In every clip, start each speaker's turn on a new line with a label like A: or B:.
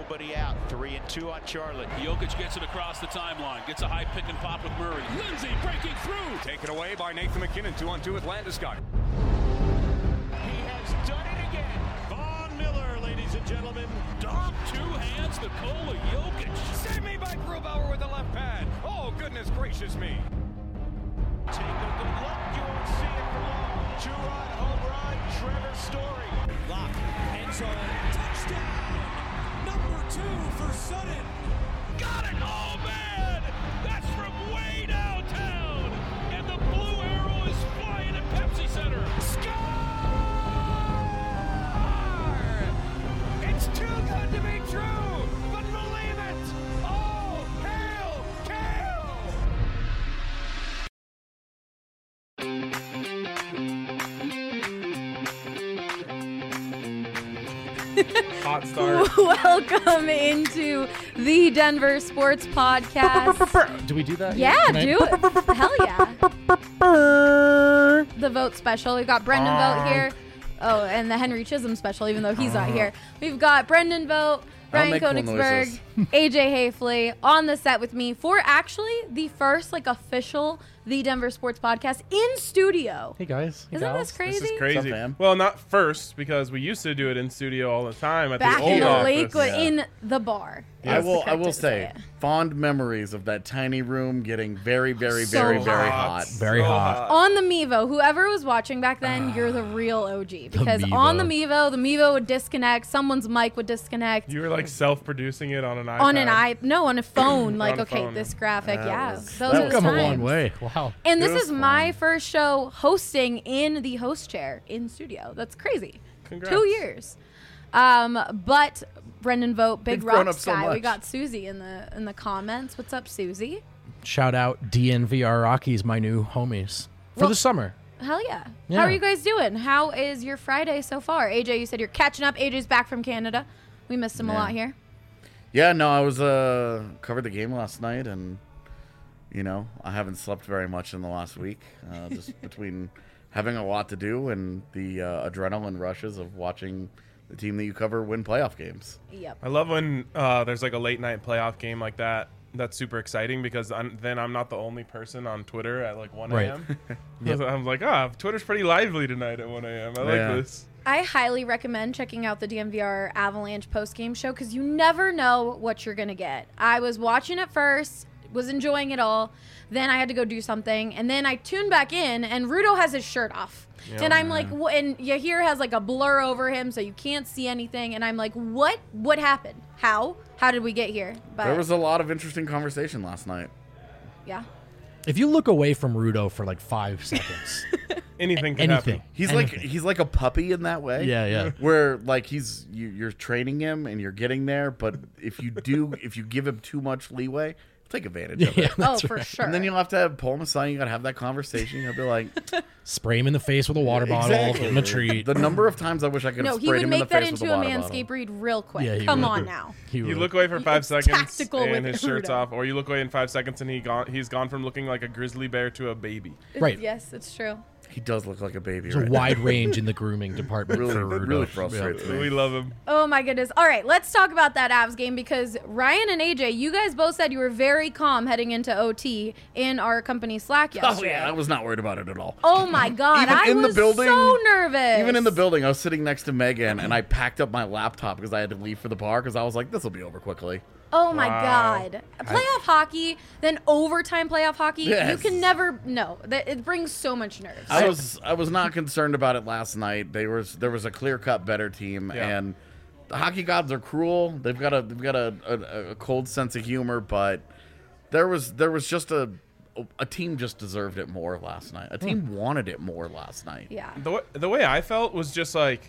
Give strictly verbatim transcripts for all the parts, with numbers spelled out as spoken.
A: nobody out. Three and two on Charlotte.
B: Jokic gets it across the timeline. Gets a high pick and pop with Murray. Lindsay breaking through.
C: Taken away by Nathan McKinnon. Two on two with Landeskog.
A: He has done it again.
B: Von Miller, ladies and gentlemen. Dom, two hands, Nikola Jokic.
C: Save me by Grubauer with the left pad. Oh, goodness gracious me.
A: Take a good look. You won't see it for long. Two-run home run, Trevor Story.
D: Lock, end zone, touchdown! Number two for Sutton.
B: Got it! Oh, man! That's from way downtown! And the blue arrow is flying at Pepsi Center.
C: Score! It's too good to be true, but believe it! Oh, hail, Kale!
E: Hot start.
F: Welcome into the Denver Sports Podcast.
E: Do we do that?
F: Yeah,
E: Can I-
F: do it. Hell yeah. The vote special. We've got Brendan Vote here. Oh, and the Henry Chisholm special, even though he's not here. We've got Brendan Vote, Ryan
G: make cool
F: Koenigsberg,
G: noises.
F: A J Hafley on the set with me for actually the first like official The Denver Sports Podcast in studio.
E: Hey guys. Hey
F: Isn't
E: gals.
F: this crazy?
G: This is
E: What's
G: crazy.
E: up, fam?
G: Well, not first, because we used to do it in studio all the time at
F: Back
G: the old
F: in the
G: office.
F: Lakewood,
G: Yeah.
F: in the bar.
G: Yeah.
F: That's
G: I
F: the
G: will-
F: correct
G: I
F: way
G: will
F: to
G: say,
F: it.
G: fond memories of that tiny room getting very, very,
F: So
G: very, very
F: hot.
G: hot.
E: Very
G: So
E: hot.
F: On the Mevo, whoever was watching back then, you're the real O G. Because
E: Mevo.
F: on the Mevo, the Mevo would disconnect, someone's mic would disconnect.
H: You were like self-producing it on an iPad.
F: On an i no, on a phone. Like,
H: On a
F: okay,
H: phone,
F: this graphic,
G: That
F: yeah.
G: was-
F: Those
G: that
F: are
G: was
F: the
E: Come a
F: times.
E: long way. Wow.
F: And
G: It
F: this
G: was
F: is my
G: fun.
F: first show hosting in the host chair in studio. That's crazy.
H: Congrats.
F: Two years. Um, but Brendan Vote, Big
G: They've grown
F: Rocks
G: up so
F: guy. We
G: much.
F: got Susie in the in the comments. What's up, Susie?
E: Shout out D N V R Rockies, my new homies for
F: Well-
E: the summer.
F: Hell yeah.
E: Yeah.
F: How are you guys doing? How is your Friday so far? A J, you said you're catching up. A J's back from Canada. We missed him a
G: Yeah.
F: lot here.
G: Yeah, no, I was uh covered the game last night, and you know I haven't slept very much in the last week, uh, just between having a lot to do and the uh, adrenaline rushes of watching the team that you cover win playoff games.
F: Yep.
H: I love when uh, there's like a late night playoff game like that. That's super exciting because I'm, then I'm not the only person on Twitter at like one a.m.
E: Yep.
H: I'm like, ah, Twitter's pretty lively tonight at one a.m. I like
G: Yeah.
H: this.
F: I highly recommend checking out the D M V R Avalanche post-game show because you never know what you're going to get. I was watching it first, was enjoying it all. Then I had to go do something. And then I tuned back in, and Rudo has his shirt off.
H: Yeah,
F: and I'm like, wh- and Yahir has like a blur over him so you can't see anything. And I'm like, what? What happened? How? How did we get here? But
G: There was a lot of interesting conversation last night.
F: yeah.
E: If you look away from Rudo for like five seconds,
H: Anything can
E: anything.
H: happen.
G: He's
E: anything.
G: like he's like a puppy in that way.
E: Yeah, yeah.
G: Where like he's you, you're training him and you're getting there, but if you do if you give him too much leeway, he'll take advantage of it.
E: Yeah,
F: Oh,
E: that's
F: for
E: right.
F: sure.
G: And then you'll have to have Paul Masai. You got to have that conversation. You'll be like,
E: Spray him in the face with a water bottle,
G: Exactly.
E: give him a treat.
G: the number of times I wish I could
F: no,
G: have
F: he
G: sprayed
F: would
G: him in
F: make
G: the
F: that
G: face with
F: into
G: a
F: a
G: water
F: manscape
G: bottle.
F: read real quick.
E: Yeah, he
F: Come
E: would.
F: on now.
E: He
H: You
E: would.
H: look away for five
F: It's
H: seconds
F: tactical
H: and
F: with
H: his shirt's
F: Rudo.
H: off, or you look away in five seconds and he gone. He's gone from looking like a grizzly bear to a baby.
E: Right.
F: Yes, it's true.
G: He does look like a baby.
E: There's
G: Right
E: a wide range in the grooming department
G: Really-
E: for Rudo.
G: really frustrates me.
H: We love him.
F: Oh my goodness. All right, let's talk about that Avs game because Ryan and A J, you guys both said you were very calm heading into O T in our company Slack
G: Oh
F: yesterday.
G: yeah, I was not worried about it at all.
F: Oh my god,
G: Even
F: I
G: in the
F: was
G: building-
F: so nervous.
G: Even in the building, I was sitting next to Megan, and I packed up my laptop because I had to leave for the bar because I was like, this will be over quickly.
F: Oh my
H: Wow.
F: god. Playoff hockey, then overtime playoff hockey,
G: Yes.
F: you can never no, that it brings so much nerves.
G: I was I was not concerned about it last night. They was there was a clear cut better team,
H: Yeah.
G: and the hockey gods are cruel. They've got a they've got a, a, a cold sense of humor, but there was there was just a a team just deserved it more last night. A team wanted it more last night.
F: yeah.
H: The way, the way I felt was just like,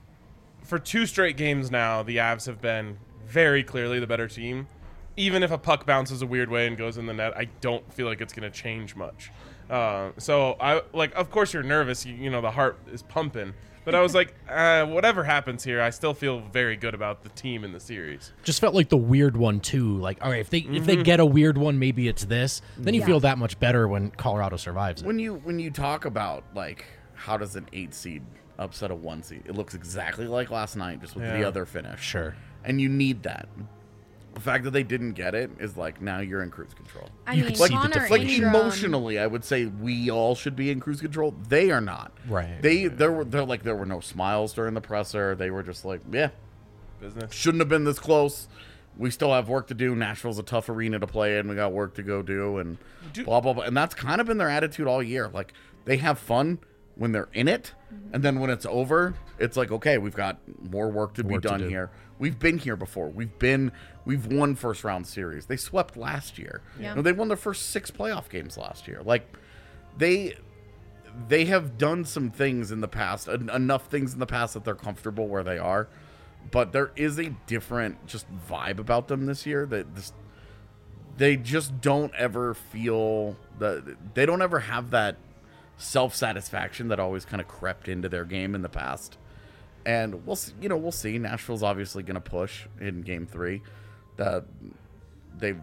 H: for two straight games now, the Avs have been very clearly the better team. Even if a puck bounces a weird way and goes in the net, I don't feel like it's going to change much. Uh, so I like, of course, you're nervous. You, you know, the heart is pumping. But I was like, uh, whatever happens here, I still feel very good about the team in the series.
E: Just felt like the weird one too. Like, all right, if they if they get a weird one, maybe it's this. Then you
F: Yeah.
E: feel that much better when Colorado survives it.
G: When you when you talk about like how does an eight seed upset a one seed. It looks exactly like last night, just with
H: Yeah.
G: the other finish.
E: Sure.
G: And you need that. The fact that they didn't get it is like now you're in cruise control.
F: I
E: You
F: mean,
E: could see the
F: Connor
E: difference.
G: Like
F: Ingram,
G: emotionally, I would say we all should be in cruise control. They are not.
E: Right.
G: They there were there like there were no smiles during the presser. They were just like, yeah,
H: Business.
G: shouldn't have been this close. We still have work to do. Nashville's a tough arena to play in. We got work to go do, and
H: Do-
G: blah blah blah. And that's kind of been their attitude all year. Like they have fun when they're in it, and then when it's over, it's like, okay, we've got more work to be
E: Work to
G: done
E: do.
G: here. We've been here before. We've been we've won first round series. They swept last year.
F: Yeah.
G: You know, they won their first six playoff games last year. Like they they have done some things in the past, en- enough things in the past that they're comfortable where they are. But there is a different just vibe about them this year that this, they just don't ever feel that they don't ever have that self-satisfaction that always kind of crept into their game in the past. And we'll see, you know, we'll see. Nashville's obviously going to push in game three. That they've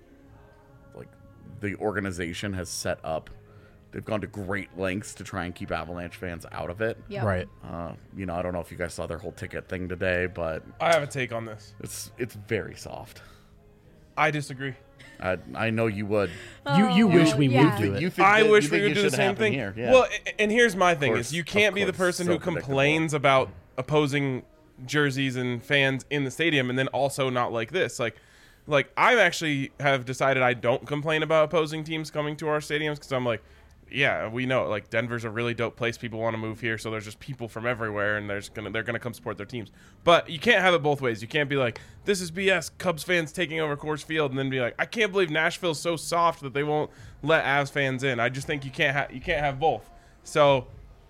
G: like the organization has set up. They've gone to great lengths to try and keep Avalanche fans out of it.
F: Yep.
E: Right.
G: Uh, you know, I don't know if you guys saw their whole ticket thing today, but
H: I have a take on this.
G: it's it's very soft.
H: I disagree.
G: I I know you would.
E: You you
F: Oh,
E: wish we
F: yeah.
E: would do it.
G: You think
H: I
G: that-
H: wish
G: you
H: we
G: think
H: would
G: it
H: do the
G: should
H: same
G: happen
H: thing.
G: here. Yeah.
H: Well, a- and here's my thing:
G: course,
H: is you
G: of
H: can't be the
G: course,
H: person
G: so
H: who
G: predictable.
H: complains about opposing jerseys and fans in the stadium, and then also not like this. Like, like I actually have decided I don't complain about opposing teams coming to our stadiums because I'm like, yeah, we know like Denver's a really dope place. People want to move here, so there's just people from everywhere, and there's gonna they're gonna come support their teams. But you can't have it both ways. You can't be like, this is B S, Cubs fans taking over Coors Field, and then be like, I can't believe Nashville's so soft that they won't let Avs fans in. I just think you can't have you can't have both. So,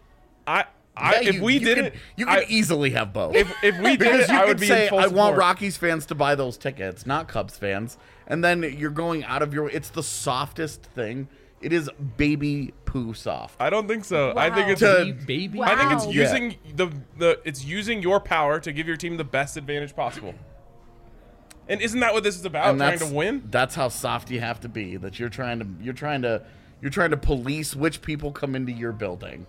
H: I I
G: Yeah,
H: if
G: you-
H: we
G: you
H: did
G: could,
H: it,
G: you could
H: I-
G: easily have both.
H: if if we did
G: because
H: it,
G: you
H: I
G: could
H: would be
G: say,
H: in full
G: I want
H: support.
G: Rockies fans to buy those tickets, not Cubs fans. And then you're going out of your. It's the softest thing. It is baby poo soft.
H: I don't think so. I think
F: Wow.
H: it's
G: To-
E: baby.
F: Wow.
H: I think it's
F: Wow.
H: using the the it's using your power to give your team the best advantage possible. And isn't that what this is about?
G: And
H: Trying
G: that's
H: to win?
G: That's how soft you have to be. That you're trying to. You're trying to. You're trying to police which people come into your building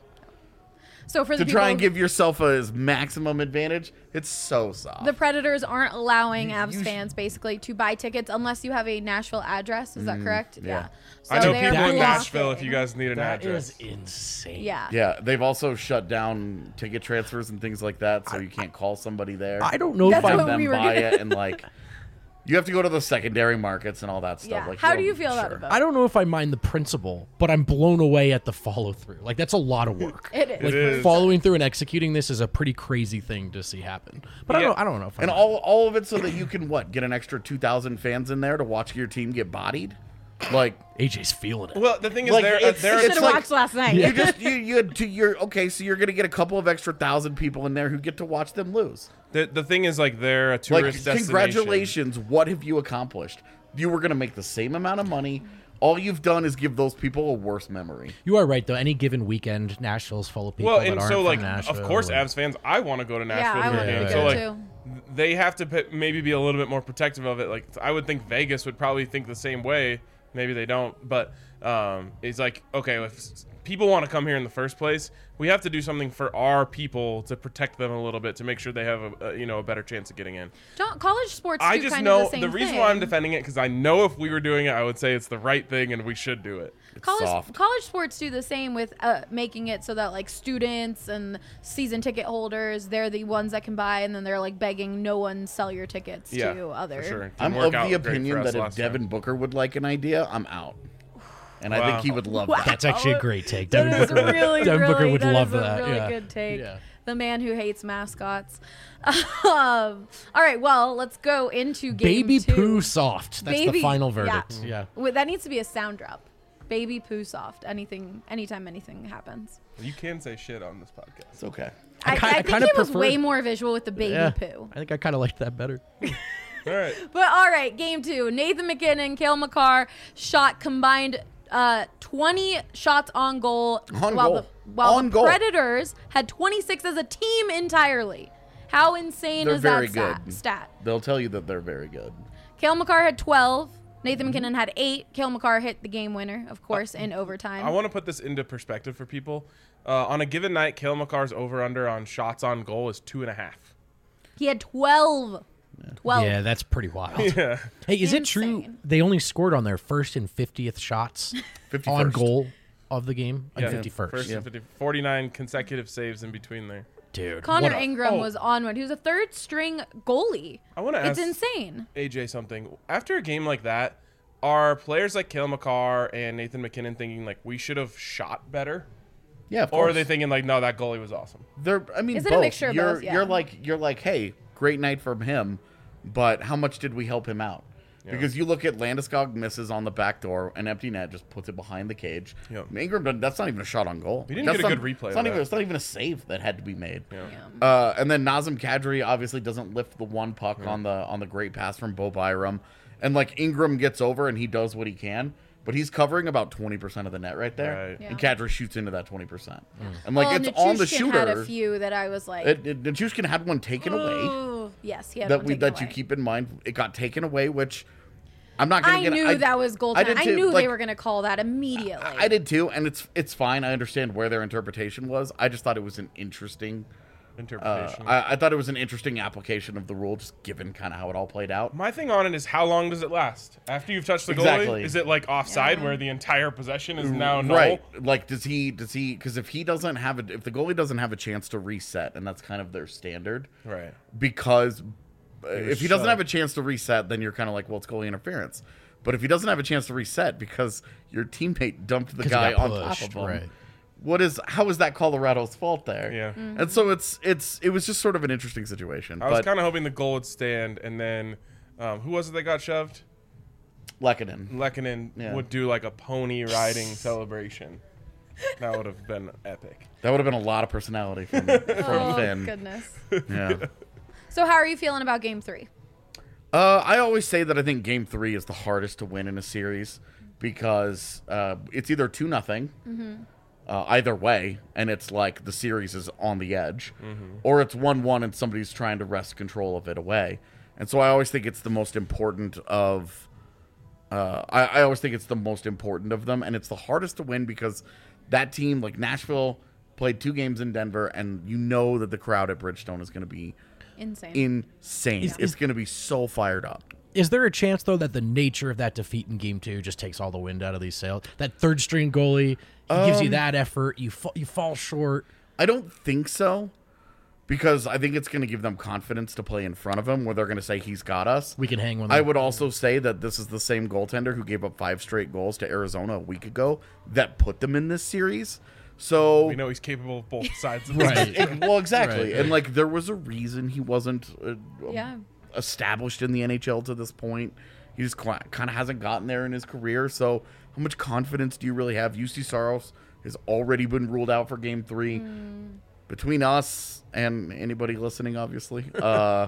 F: So for the
G: to
F: people,
G: try and give yourself a maximum advantage. It's so soft.
F: the Predators aren't allowing
G: You-
F: Avs
G: you sh-
F: fans basically to buy tickets unless you have a Nashville address. Is that correct?
G: yeah.
F: So
H: I know
F: they're
H: people in
F: locked
H: Nashville
F: in.
H: if you guys need an
E: That
H: address.
E: is insane.
F: Yeah.
G: Yeah, they've also shut down ticket transfers and things like that, so you can't call somebody there.
E: I don't know
F: That's
E: if I
F: what
G: them
F: we were
G: buy
F: gonna-
G: it and like you have to go to the secondary markets and all that stuff.
F: Yeah.
G: Like,
F: How
G: you
F: do you
G: don't-
F: feel about
G: sure.
F: it? Though?
E: I don't know if I mind the principle, but I'm blown away at the follow through. Like that's a lot of work.
F: It is.
E: Like
H: It is.
E: following through and executing this is a pretty crazy thing to see happen. But I
H: Yeah.
E: don't. I don't know if I
G: And
E: mind.
G: all all of it so that you can what get an extra two thousand fans in there to watch your team get bodied. Like
E: A J's feeling it.
H: Well, the thing is,
G: Like,
H: there, uh,
G: it's-
H: there
F: You
H: are
F: should
G: it's
F: have
G: like-
F: watched last night.
G: you just you you to you're okay, so you're gonna get a couple of extra thousand people in there who get to watch them lose.
H: the, the thing is like they're a
G: Like
H: tourist destination.
G: congratulations, what have you accomplished? You were gonna make the same amount of money. All you've done is give those people a worse memory.
E: You are right though. Any given weekend, Nashville's full of people
H: Well,
E: that
H: and
E: aren't
H: so
E: from
H: like
E: Nashville.
H: of course,
E: and-
H: Avs fans, I want to go to Nashville
F: Yeah, I
H: for a
F: want
H: game.
E: to
H: So
E: go
H: like
F: too.
H: they have to p- maybe be a little bit more protective of it. Like I would think Vegas would probably think the same way. Maybe they don't, but um, it's like okay, if s- people want to come here in the first place, we have to do something for our people to protect them a little bit to make sure they have a, a you know a better chance of getting in.
F: Don't college sports
H: I
F: do
H: just
F: kind
H: know
F: of the same
H: reason
F: thing.
H: why I'm defending it because I know if we were doing it, I would say it's the right thing and we should do it.
G: It's
F: College
G: soft.
F: college sports do the same with uh, making it so that like students and season ticket holders, they're the ones that can buy, and then they're like begging no one sell your tickets
H: Yeah,
F: to other.
H: for sure. Didn't
G: I'm
H: work
G: of
H: out
G: the
H: great for
G: opinion
H: us
G: that if
H: last time.
G: Devin Booker would like an idea, I'm out. And I
H: Wow.
G: think he would love
F: Wow.
G: that.
E: That's actually a great take.
F: That
E: Devin
F: is
E: Booker,
F: really,
E: Devin
F: really,
E: Booker would
F: that
E: love
F: is a
E: that.
F: really
E: yeah.
F: good take.
E: Yeah.
F: The man who hates mascots. um, all right, well, let's go into game
E: Baby
F: two.
E: poo soft. That's
F: Baby-
E: the final
F: yeah.
E: verdict. Yeah.
F: Wait, that needs to be a sound drop. Baby poo soft. Anything, anytime anything happens.
H: You can say shit on this podcast.
G: It's okay.
F: I,
E: I ki-
F: I
E: I
F: think
E: kinda
F: it was
E: prefer-
F: way more visual with the baby
E: Yeah.
F: poo.
E: I think I kind of liked that better.
H: All right.
F: But all right, game two. Nathan McKinnon, Cale Makar shot combined uh, twenty shots on goal.
G: On
F: while
G: goal.
F: The, while
G: On
F: the
G: goal.
F: Predators had twenty-six as a team entirely. How insane
G: They're
F: is
G: very
F: that stat?
G: good.
F: stat?
G: They'll tell you that they're very good.
F: Cale Makar had twelve. Nathan McKinnon had eight. Cale Makar hit the game winner, of course, in overtime.
H: I want to put this into perspective for people. Uh, on a given night, Cale Makar's over-under on shots on goal is two and a half.
F: He had twelve. twelve.
E: Yeah, that's pretty wild.
H: Yeah.
E: Hey, is it true
F: Insane.
E: they only scored on their first and fiftieth shots
G: fifty-first.
E: on goal of the game? On
H: Yeah,
E: fifty-first.
H: First and fifty, forty-nine consecutive saves in between there.
E: Dude.
F: Connor
E: what a-
F: Ingram
H: oh.
F: was on one. He was a third string goalie.
H: I want to
F: It's
H: ask
F: insane.
H: A J something. After a game like that, are players like Cale Makar and Nathan McKinnon thinking like we should have shot better?
G: Yeah, of
H: Or are
G: course.
H: they thinking like, no, that goalie was awesome?
G: They're, I mean,
F: Is it a
G: both.
F: mixture of
G: you're,
F: both? Yeah.
G: You're like, you're like, hey, great night from him, but how much did we help him out?
H: Yeah.
G: Because you look at Landeskog misses on the back door, an empty net, just puts it behind the cage.
H: Yep.
G: Ingram, doesn't- that's not even a shot on goal.
H: He didn't
G: That's
H: get a
G: not-
H: good replay
G: It's
H: of
G: not, even,
H: that.
G: it's not even a save that had to be made.
H: Yeah.
F: Yeah.
G: Uh, and then Nazem Kadri obviously doesn't lift the one puck on the on the great pass from Bo Byram, and like Ingram gets over and he does what he can, but he's covering about twenty percent of the net right there,
H: Right.
F: Yeah.
G: and Kadri shoots into that twenty percent, and like
F: well,
G: it's on the
F: Nichushkin
G: shooter.
F: had a few that I was like,
G: It, it, Nichushkin had one taken away
F: ooh. Yes, he had
G: that
F: one
G: we
F: taken
G: that you
F: away.
G: keep in mind. It got taken away, which I'm not gonna
F: I
G: get.
F: knew
G: I,
F: that was
G: I
F: goaltending.
G: did
F: I,
G: too.
F: knew
G: Like,
F: they were going to call that immediately.
G: I did too, and it's it's fine. I understand where their interpretation was. I just thought it was an interesting. Uh,
H: Interpretation.
G: I, I thought it was an interesting application of the rule, just given kind of how it all played out.
H: My thing on it is how long does it last? After you've touched the
G: Exactly.
H: goalie, is it like offside
F: Yeah.
H: where the entire possession is now null?
G: Right. Like, does he, does he, because if he doesn't have a, if the goalie doesn't have a chance to reset, and that's kind of their standard,
H: Right.
G: because uh, if he doesn't
H: shut.
G: have a chance to reset, then you're kind of like, well, it's goalie interference. But if he doesn't have a chance to reset because your teammate dumped the
E: 'Cause he
G: guy
E: got
G: on top
E: pushed,
G: of him,
E: right.
G: what is, how is that Colorado's fault there?
H: Yeah.
F: Mm.
G: And so it's, it's, it was just sort of an interesting situation.
H: I was
G: but
H: kind of hoping the goal would stand, and then um, who was it that got shoved?
G: Lekanen.
H: Lekanen
G: Yeah.
H: would do like a pony riding celebration. That would have been epic.
G: That would have been a lot of personality from, from
F: Oh,
G: Finn.
F: goodness.
G: Yeah.
F: So how are you feeling about game three?
G: Uh, I always say that I think Game Three is the hardest to win in a series because uh, it's either two nothing, uh, either way, and it's like the series is on the edge, or it's one one and somebody's trying to wrest control of it away. And so I always think it's the most important of. Uh, I, I always think it's the most important of them, and it's the hardest to win because that team, like Nashville, played two games in Denver, and you know that the crowd at Bridgestone is going to be
F: Insane.
G: insane.
E: Is-
G: it's
E: is-
G: going to be so fired up.
E: Is there a chance, though, that the nature of that defeat in Game Two just takes all the wind out of these sails? That third string goalie, he gives
G: Um,
E: you that effort, you fa- you fall short.
G: I don't think so, because I think it's going to give them confidence to play in front of him, where they're going to say he's got us.
E: We can hang with
G: I
E: them.
G: would also say that this is the same goaltender who gave up five straight goals to Arizona a week ago that put them in this series. So
H: We know he's capable of both sides of
E: Right.
H: this.
G: it- well, exactly,
E: Right,
G: and
E: right.
G: like there was a reason he wasn't uh,
F: Yeah.
G: established in the N H L to this point. He just kind of hasn't gotten there in his career. So how much confidence do you really have? U C Saros has already been ruled out for Game Three. Between us and anybody listening, obviously, uh,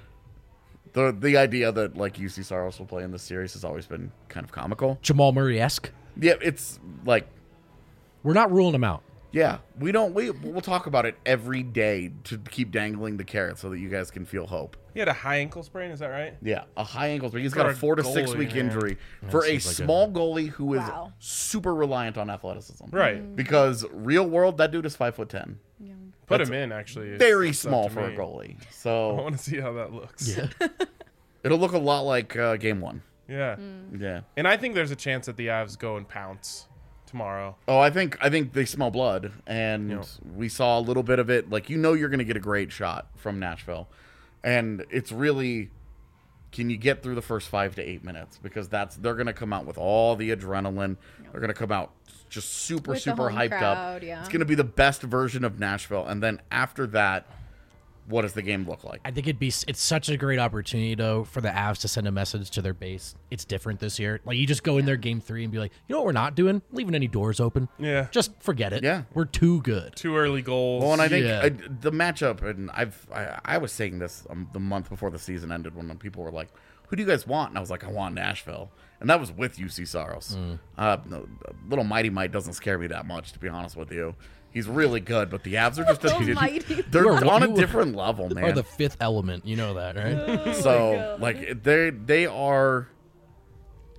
G: the the idea that like U C Saros will play in this series has always been kind of comical.
E: Jamal Murray-esque.
G: Yeah, it's like.
E: We're not ruling him out.
G: Yeah, we don't. We we'll talk about it every day to keep dangling the carrot so that you guys can feel hope.
H: He had a high ankle sprain, is that right?
G: Yeah, a high ankle sprain. He's
H: For
G: got a
H: a
G: four to six
H: goalie,
G: week
H: man.
G: injury for a
E: seems like a-
G: small goalie who is
F: Wow.
G: super reliant on athleticism.
H: Right.
G: Because real world, that dude is five foot ten.
H: Put
G: That's
H: him in, actually. It's-
G: Very
H: it's up
G: small
H: to
G: for a
H: me.
G: goalie.
H: I
G: So
H: want to see how that looks.
E: Yeah.
G: it'll look a lot like uh, game one.
H: Yeah.
G: Yeah.
H: And I think there's a chance that the Avs go and pounce tomorrow.
G: Oh, I think I think they smell blood, and
H: Yeah.
G: we saw a little bit of it. Like you know, you're going to get a great shot from Nashville, and it's really, can you get through the first five to eight minutes? Because that's they're going to come out with all the adrenaline. They're going to come out just super
F: With the
G: super
F: home
G: hyped
F: crowd,
G: up.
F: yeah.
G: It's going to be the best version of Nashville, and then after that, what does the game look like?
E: I think it'd be it's such a great opportunity though for the Avs to send a message to their base. It's different this year. Like you just go in there game three and be like, you know what we're not doing? Leaving any doors open.
H: Yeah.
E: Just forget it.
G: Yeah.
E: We're too good.
H: Two early goals.
G: Well, and I think
E: Yeah.
G: I, the matchup, and I've I, I was saying this um, the month before the season ended when people were like, "Who do you guys want?" And I was like, "I want Nashville," and that was with U C Saros.
E: Mm.
G: Uh, no, little Mighty Mite doesn't scare me that much, to be honest with you. He's really good, but the Avs are just a,
F: Little Mighty.
G: they're
E: You are-
G: on a
E: you are-
G: different level,
E: Or
G: man.
E: the fifth element. You know that, right?
G: so like they they are.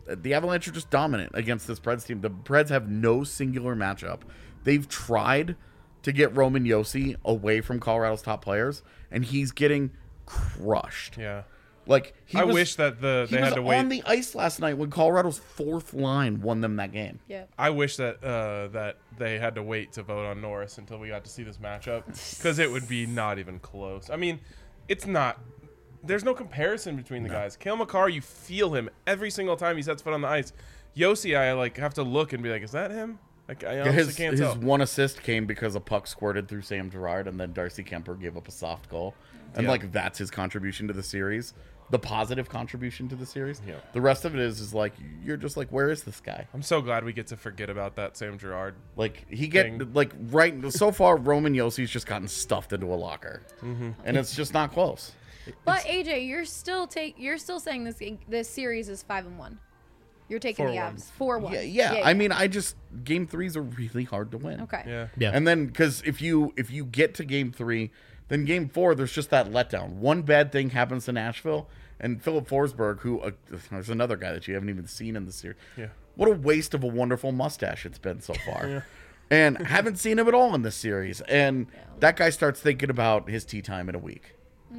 G: the Avalanche are just dominant against this Preds team. The Preds have no singular matchup. They've tried to get Roman Josi away from Colorado's top players, and he's getting crushed.
H: Yeah.
G: Like he
H: I
G: was,
H: wish that the
G: he
H: they
G: was
H: had to wait.
G: on the ice last night when Colorado's fourth line won them that game.
F: Yeah.
H: I wish that uh, that they had to wait to vote on Norris until we got to see this matchup, because it would be not even close. I mean, it's not. There's no comparison between the no. guys. Cale Makar, you feel him every single time he sets foot on the ice. Josi, I like have to look and be like, is that him? Like, I honestly
G: his,
H: can't
G: his
H: tell.
G: one assist came because a puck squirted through Sam Girard, and then Darcy Kemper gave up a soft goal, and
H: yeah.
G: like that's his contribution to the series. The positive contribution to the series.
H: Yeah.
G: The rest of it is is like you're just like, where is this guy?
H: I'm so glad we get to forget about that Sam Girard.
G: Like he get
H: thing.
G: like right so far, Roman Josi's just gotten stuffed into a locker, mm-hmm. and it's just not close.
F: But A J, you're still take you're still saying this this series is five and one. You're taking
H: four
F: the
H: one.
F: Avs four one.
G: Yeah, yeah,
F: yeah.
G: I mean, I just game threes are really hard to win.
F: Okay.
H: Yeah.
E: Yeah.
G: And then because if you if you get to game three, then game four there's just that letdown. One bad thing happens to Nashville. And Philip Forsberg, who uh, there's another guy that you haven't even seen in the series.
H: Yeah.
G: What a waste of a wonderful mustache it's been so far.
H: Yeah.
G: And haven't seen him at all in this series. And that guy starts thinking about his tea time in a week.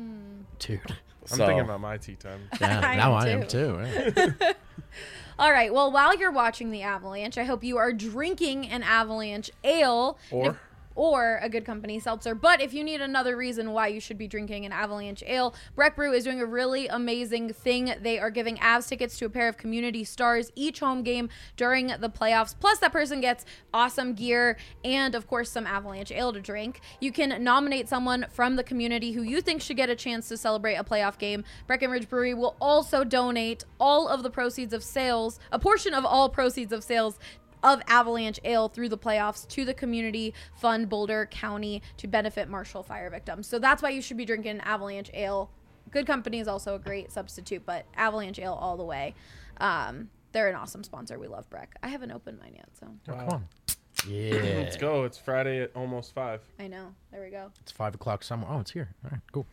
E: Dude.
H: I'm
G: So-
H: thinking about my tea time.
E: Yeah,
F: I
E: now
F: am
E: I am
F: too.
E: too. yeah.
F: All right. Well, while you're watching the Avalanche, I hope you are drinking an Avalanche ale.
H: Or?
F: If- or a Good Company seltzer. But if you need another reason why you should be drinking an Avalanche ale, Breck Brew is doing a really amazing thing. They are giving Avs tickets to a pair of community stars each home game during the playoffs. Plus, that person gets awesome gear and, of course, some Avalanche ale to drink. You can nominate someone from the community who you think should get a chance to celebrate a playoff game. Breckenridge Brewery will also donate all of the proceeds of sales, a portion of all proceeds of sales of Avalanche Ale through the playoffs to the Community Fund Boulder County to benefit Marshall fire victims. So that's why you should be drinking Avalanche Ale. Good Company is also a great substitute, but Avalanche Ale all the way. Um, they're an awesome sponsor. We love Breck. I haven't opened mine yet, so
E: Oh, come on. Yeah.
H: Let's go. It's Friday at almost five.
F: I know. There we go.
E: It's five o'clock somewhere. Oh, it's here. All right, cool.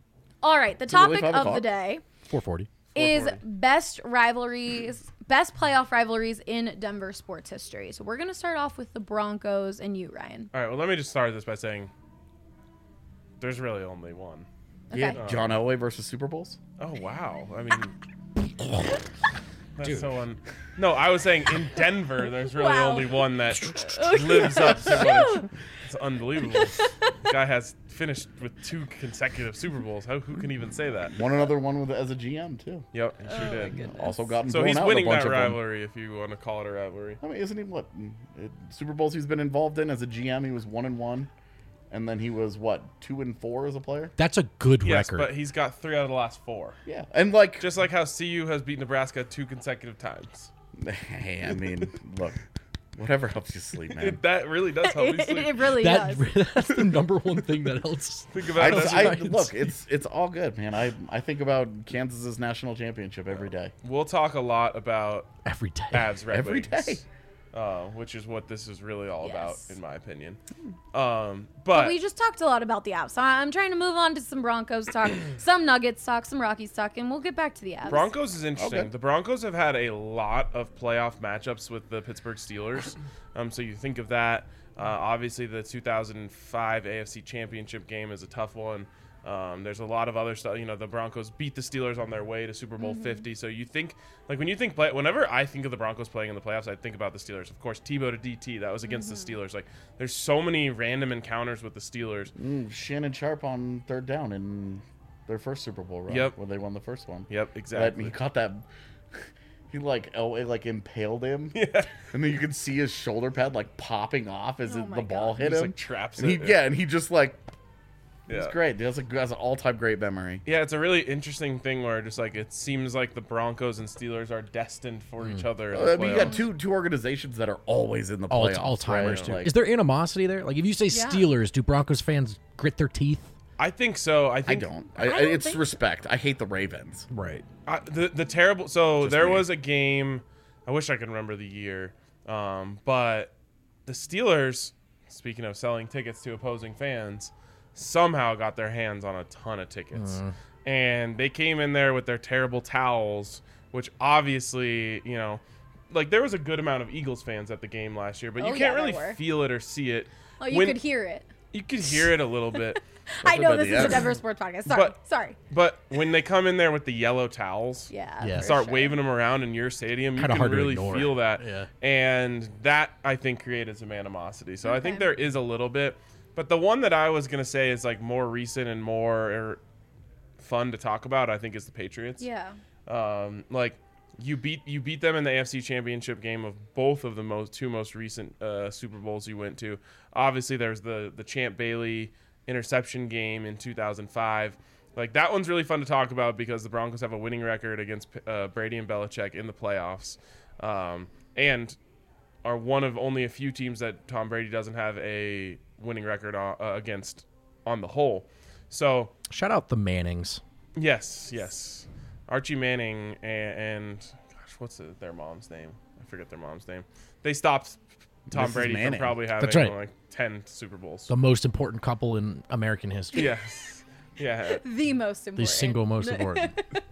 F: All right, the
G: it really
F: topic
G: five
F: of
G: o'clock?
F: the day
E: Four forty.
F: is best rivalries, best playoff rivalries in Denver sports history. So we're going to start off with the Broncos and you, Ryan.
H: All right. Well, let me just start this by saying there's really only one.
F: Okay.
G: Yeah, John Elway versus Super Bowls.
H: Oh, wow. I mean, that's so un- No, I was saying in Denver, there's really
F: Wow.
H: only one that lives up to what it's, it's unbelievable. Guy has finished with two consecutive Super Bowls. How, who can even say that?
G: Won another one with as a G M too.
H: Yep, he sure
F: Oh,
H: did.
G: Also gotten
H: So
G: blown
H: he's
G: out in
H: winning
G: a bunch
H: that
G: of them.
H: rivalry, if you want to call it a rivalry.
G: I mean, isn't he what it, Super Bowls he's been involved in as a G M? He was one and one, and then he was what two and four as a player.
E: That's a good
H: Yes,
E: record.
H: but he's got three out of the last four.
G: Yeah, and like,
H: Just like how C U has beat Nebraska two consecutive times.
G: hey, I mean, look, whatever helps you sleep, man.
H: It, that really does help me
F: It,
H: sleep.
F: it really
E: that,
F: does.
E: that's the number one thing that helps.
H: Think
G: I,
H: about
G: just,
H: that.
G: I look, it's it's all good, man. I I think about Kansas's national championship every day.
H: We'll talk a lot about
E: Every day.
H: Avs Red
G: Every
H: Wings,
G: day.
H: uh, which is what this is really all
F: Yes.
H: about, in my opinion. Um, but
F: We just talked a lot about the Avs. So I'm trying to move on to some Broncos talk, some Nuggets talk, some Rockies talk, and we'll get back to the Avs.
H: Broncos is interesting.
G: Okay.
H: The Broncos have had a lot of playoff matchups with the Pittsburgh Steelers. Um, so you think of that. Uh, obviously, the two thousand five A F C Championship game is a tough one. Um, there's a lot of other stuff. You know, the Broncos beat the Steelers on their way to Super Bowl fifty. So you think, like, when you think, play, whenever I think of the Broncos playing in the playoffs, I think about the Steelers. Of course, Tebow to D T, that was against the Steelers. Like, there's so many random encounters with the Steelers.
G: Mm, Shannon Sharp on third down in their first Super Bowl run,
H: Yep.
G: when they won the first one.
H: Yep,
G: That,
H: exactly.
G: he caught that. He like Elway like impaled him, yeah. And then you could see his shoulder pad like popping off as
F: Oh
G: it,
F: my
G: the ball
F: God.
G: hit
H: Just,
G: him.
H: like, traps
G: and he,
H: it.
G: yeah, and he just like
H: Yeah.
G: it's great. That's a that's an all time great memory.
H: Yeah, it's a really interesting thing where just like it seems like the Broncos and Steelers are destined for each other. In the
G: I mean, you got
H: playoffs.
G: two two organizations that are always in the
E: All,
G: playoffs.
E: all timers,
G: right?
E: too.
G: Like,
E: Is there animosity there? Like, if you say
F: Yeah.
E: Steelers, do Broncos fans grit their teeth?
H: I think so. I
G: I
H: think
G: don't. I,
F: I don't
G: it's
F: think-
G: respect. I hate the Ravens.
E: Right.
H: I, the the terrible. So
G: Just
H: there
G: me.
H: was a game. I wish I could remember the year, um, but the Steelers, speaking of selling tickets to opposing fans, somehow got their hands on a ton of tickets, and they came in there with their terrible towels which obviously, you know, like there was a good amount of Eagles fans at the game last year, but
F: Oh,
H: you
F: yeah,
H: can't
F: there
H: really
F: were.
H: feel it or see it.
F: Oh, you
H: When-
F: could hear it.
H: You could hear it a little bit.
F: I know
G: about
F: this
G: the
F: is a
G: end.
F: Denver Sports Podcast. Sorry.
H: But-
F: Sorry.
H: But when they come in there with the yellow towels,
F: Yeah.
E: Yeah.
F: for
H: start
F: sure.
H: waving them around in your stadium, you
E: Kinda
H: can
E: hard to
H: really
E: ignore.
H: feel that.
E: Yeah.
H: And that, I think, created some animosity. So I think
F: Okay.
H: there is a little bit. But the one that I was going to say is like more recent and more er, fun to talk about, I think, is the Patriots.
F: Yeah.
H: Um, like you beat you beat them in the A F C Championship game of both of the most two most recent uh, Super Bowls you went to. Obviously, there's the the Champ Bailey interception game in two thousand five. Like that one's really fun to talk about because the Broncos have a winning record against uh, Brady and Belichick in the playoffs, um, and are one of only a few teams that Tom Brady doesn't have a winning record uh, against on the whole. So
E: Shout out the Mannings.
H: yes, yes. Archie Manning and, and gosh, what's the, their mom's name? I forget their mom's name. They stopped Tom
G: Missus
H: Brady from
G: Manning.
H: probably having
E: That's right.
H: like ten Super Bowls.
E: The most important couple in American history.
H: Yes, yeah.
F: The most important.
E: The single most important.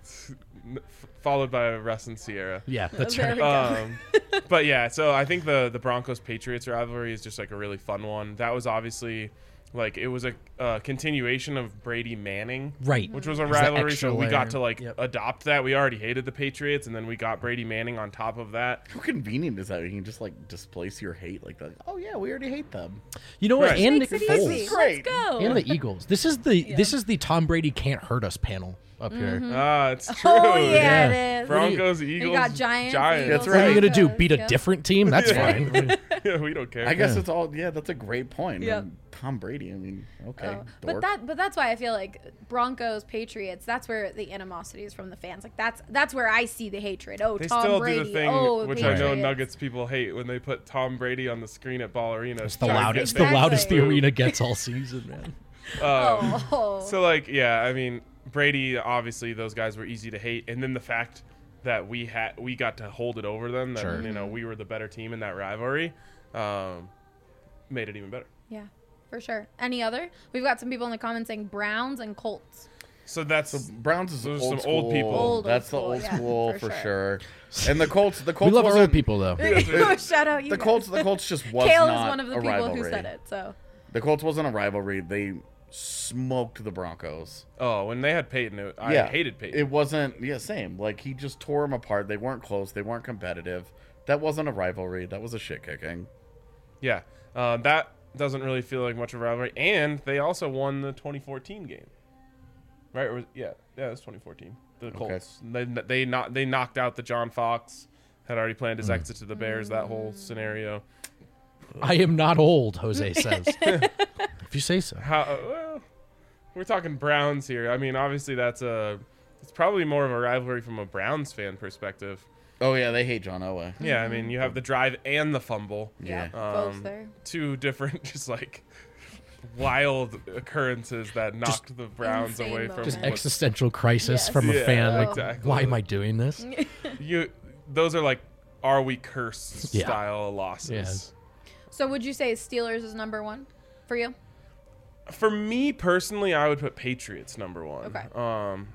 H: N- f- Followed by Russ and Sierra.
E: Yeah, that's
F: There
E: right.
F: we go.
H: Um, but yeah, so I think the the Broncos Patriots rivalry is just like a really fun one. That was obviously like it was a uh, continuation of Brady Manning,
E: Right.
H: which was a
E: It was that
H: rivalry.
E: extra
H: So we
E: layer.
H: got to like
E: Yep.
H: adopt that. We already hated the Patriots, and then we got Brady Manning on top of that.
G: How convenient is that? You can just like displace your hate like that. Oh yeah, we already hate them.
E: You know what?
H: Right.
E: And
F: Makes
E: Nick
F: it
E: Foles.
F: easy.
G: Great.
F: Let's go.
E: And the Eagles. This is the this is the Tom Brady can't hurt us panel up here.
H: Ah, it's true.
F: Oh yeah,
E: Yeah.
F: it is.
H: Broncos,
F: You
H: Eagles,
F: got Giants.
H: Giants.
G: That's
F: Eagles,
E: What are you
G: right.
E: gonna do?
F: Broncos,
E: Beat a
F: yeah.
E: different team? That's fine.
H: Yeah, we don't care.
G: I guess
E: Yeah.
G: it's all yeah. That's a great point.
F: Yep.
G: And Tom Brady. I mean, okay,
F: Oh, but
G: dork.
F: that but that's why I feel like Broncos Patriots. That's where the animosity is from the fans. Like that's that's where I see the hatred. Oh,
H: They
F: Tom
H: still
F: Brady.
H: do the thing,
F: oh, the
H: which I know
F: Patriots.
H: Nuggets people hate when they put Tom Brady on the screen at Ball Arena.
E: It's the
H: trying to get
E: loudest.
H: them
E: The loudest the
H: booed.
E: arena gets all season, man.
H: Um,
F: Oh,
H: So like, yeah, I mean, Brady. Obviously, those guys were easy to hate, and then the fact that we had we got to hold it over them. That
E: Sure.
H: you know we were the better team in that rivalry, um, made it even better.
F: yeah, for sure. Any other? We've got some people in the comments saying Browns and Colts.
H: So that's
G: So Browns is
H: Those are
G: old
H: some
G: school.
H: old people.
F: Old, old
G: That's
F: school,
G: the old
F: yeah,
G: school
F: for
G: for,
F: sure.
G: sure. And the Colts, the
E: We
G: Colts
E: love our old
G: wasn't-
E: people though.
F: Shout out you.
G: The
F: guys.
G: Colts, the Colts just was
F: Kale
G: not
F: is one of the
G: a
F: people
G: rivalry.
F: who said it. So
G: The Colts wasn't a rivalry. They smoked the Broncos.
H: oh, when they had Peyton, it, I
G: yeah,
H: hated Peyton.
G: It wasn't. Yeah, same. Like he just tore them apart. They weren't close. They weren't competitive. That wasn't a rivalry. That was a shit kicking.
H: yeah, uh, that doesn't really feel like much of a rivalry. And they also won the twenty fourteen game, right? Or was, yeah, yeah, it was twenty fourteen. The Colts. They they not they knocked out the John Fox. Had already planned his exit to the Bears. That whole scenario.
E: I am not old, Jose says. If you say so.
H: How? Uh, well, we're talking Browns here. I mean, obviously that's a. It's probably more of a rivalry from a Browns fan perspective.
G: Oh yeah, they hate John Elway.
H: Yeah, I mean, you have the drive and the fumble.
F: yeah,
G: Yeah.
F: both
H: Um,
F: there.
H: Two different, just like wild occurrences that knocked the Browns
F: insane
H: away from
F: moments.
E: Just
H: what-
E: existential crisis
F: Yes.
E: from a
H: Yeah,
E: fan. Like,
H: exactly.
E: why am I doing this?
H: you. Those are like, are we cursed
E: Yeah.
H: style losses.
E: Yeah.
F: So would you say Steelers is number one for you?
H: For me personally, I would put Patriots number one.
F: Okay.
H: Um,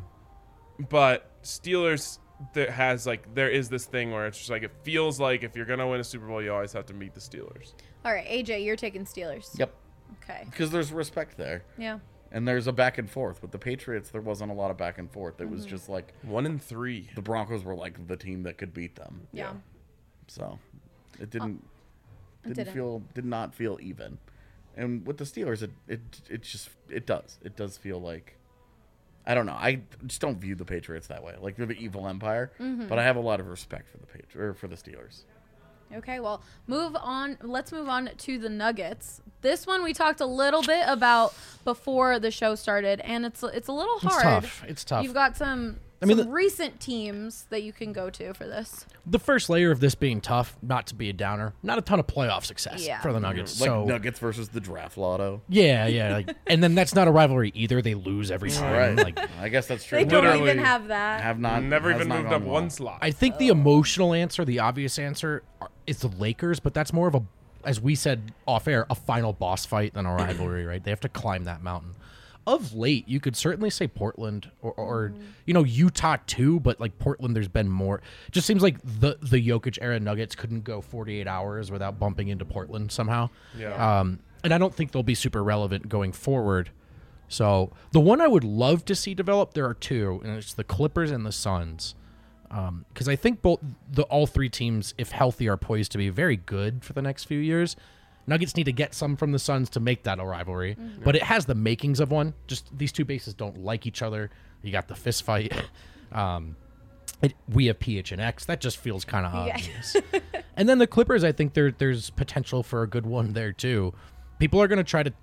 H: but Steelers that has like there is this thing where it's just like it feels like if you're gonna win a Super Bowl, you always have to meet the Steelers.
F: All right, A J, you're taking Steelers.
G: Yep.
F: Okay.
G: Because there's respect there,
F: Yeah.
G: and there's a back and forth. With the Patriots, there wasn't a lot of back and forth. It
F: Mm-hmm.
G: was just like
H: One in three.
G: the Broncos were like the team that could beat them.
F: Yeah.
G: So it didn't
F: it
G: didn't,
F: didn't.
G: feel did not feel even. And with the Steelers, it it it just it does it does feel like I don't know. I just don't view the Patriots that way. Like they're the evil empire,
F: Mm-hmm.
G: but I have a lot of respect for the Patri- or for the Steelers.
F: Okay, well, move on. Let's move on to the Nuggets. This one we talked a little bit about before the show started, and it's it's a little
E: It's
F: hard.
E: tough. It's tough.
F: You've got some,
E: I mean,
F: some
E: the-
F: recent teams that you can go to for this.
E: The first layer of this being tough, not to be a downer, not a ton of playoff success
F: Yeah.
E: for the Nuggets.
G: Like
E: so
G: Nuggets versus the draft lotto.
E: yeah, yeah, like, and then that's not a rivalry either. They lose every time.
G: Right.
E: Like,
G: I guess that's true.
F: They don't
H: Literally
F: even have that.
G: have not
H: Never
G: has
H: even
G: not
H: moved
G: gone
H: up
G: well.
H: one slot.
E: I think the emotional answer, the obvious answer, are- is the Lakers, but that's more of a, as we said off air, a final boss fight than a rivalry. Right? They have to climb that mountain. of late, you could certainly say Portland or, or you know, Utah too, but like Portland, there's been more. It just seems like the the Jokic era Nuggets couldn't go forty-eight hours without bumping into Portland somehow.
H: Yeah.
E: Um, and I don't think they'll be super relevant going forward. So the one I would love to see develop, there are two, and it's the Clippers and the Suns. Because um, I think both the all three teams, if healthy, are poised to be very good for the next few years. Nuggets need to get some from the Suns to make that a rivalry, mm-hmm. but it has the makings of one. Just these two bases don't like each other. You got the fist fight. um, it, we have P H and X. That just feels kind of
F: Yeah.
E: obvious. And then the Clippers, I think there there's potential for a good one there too. People are going to try to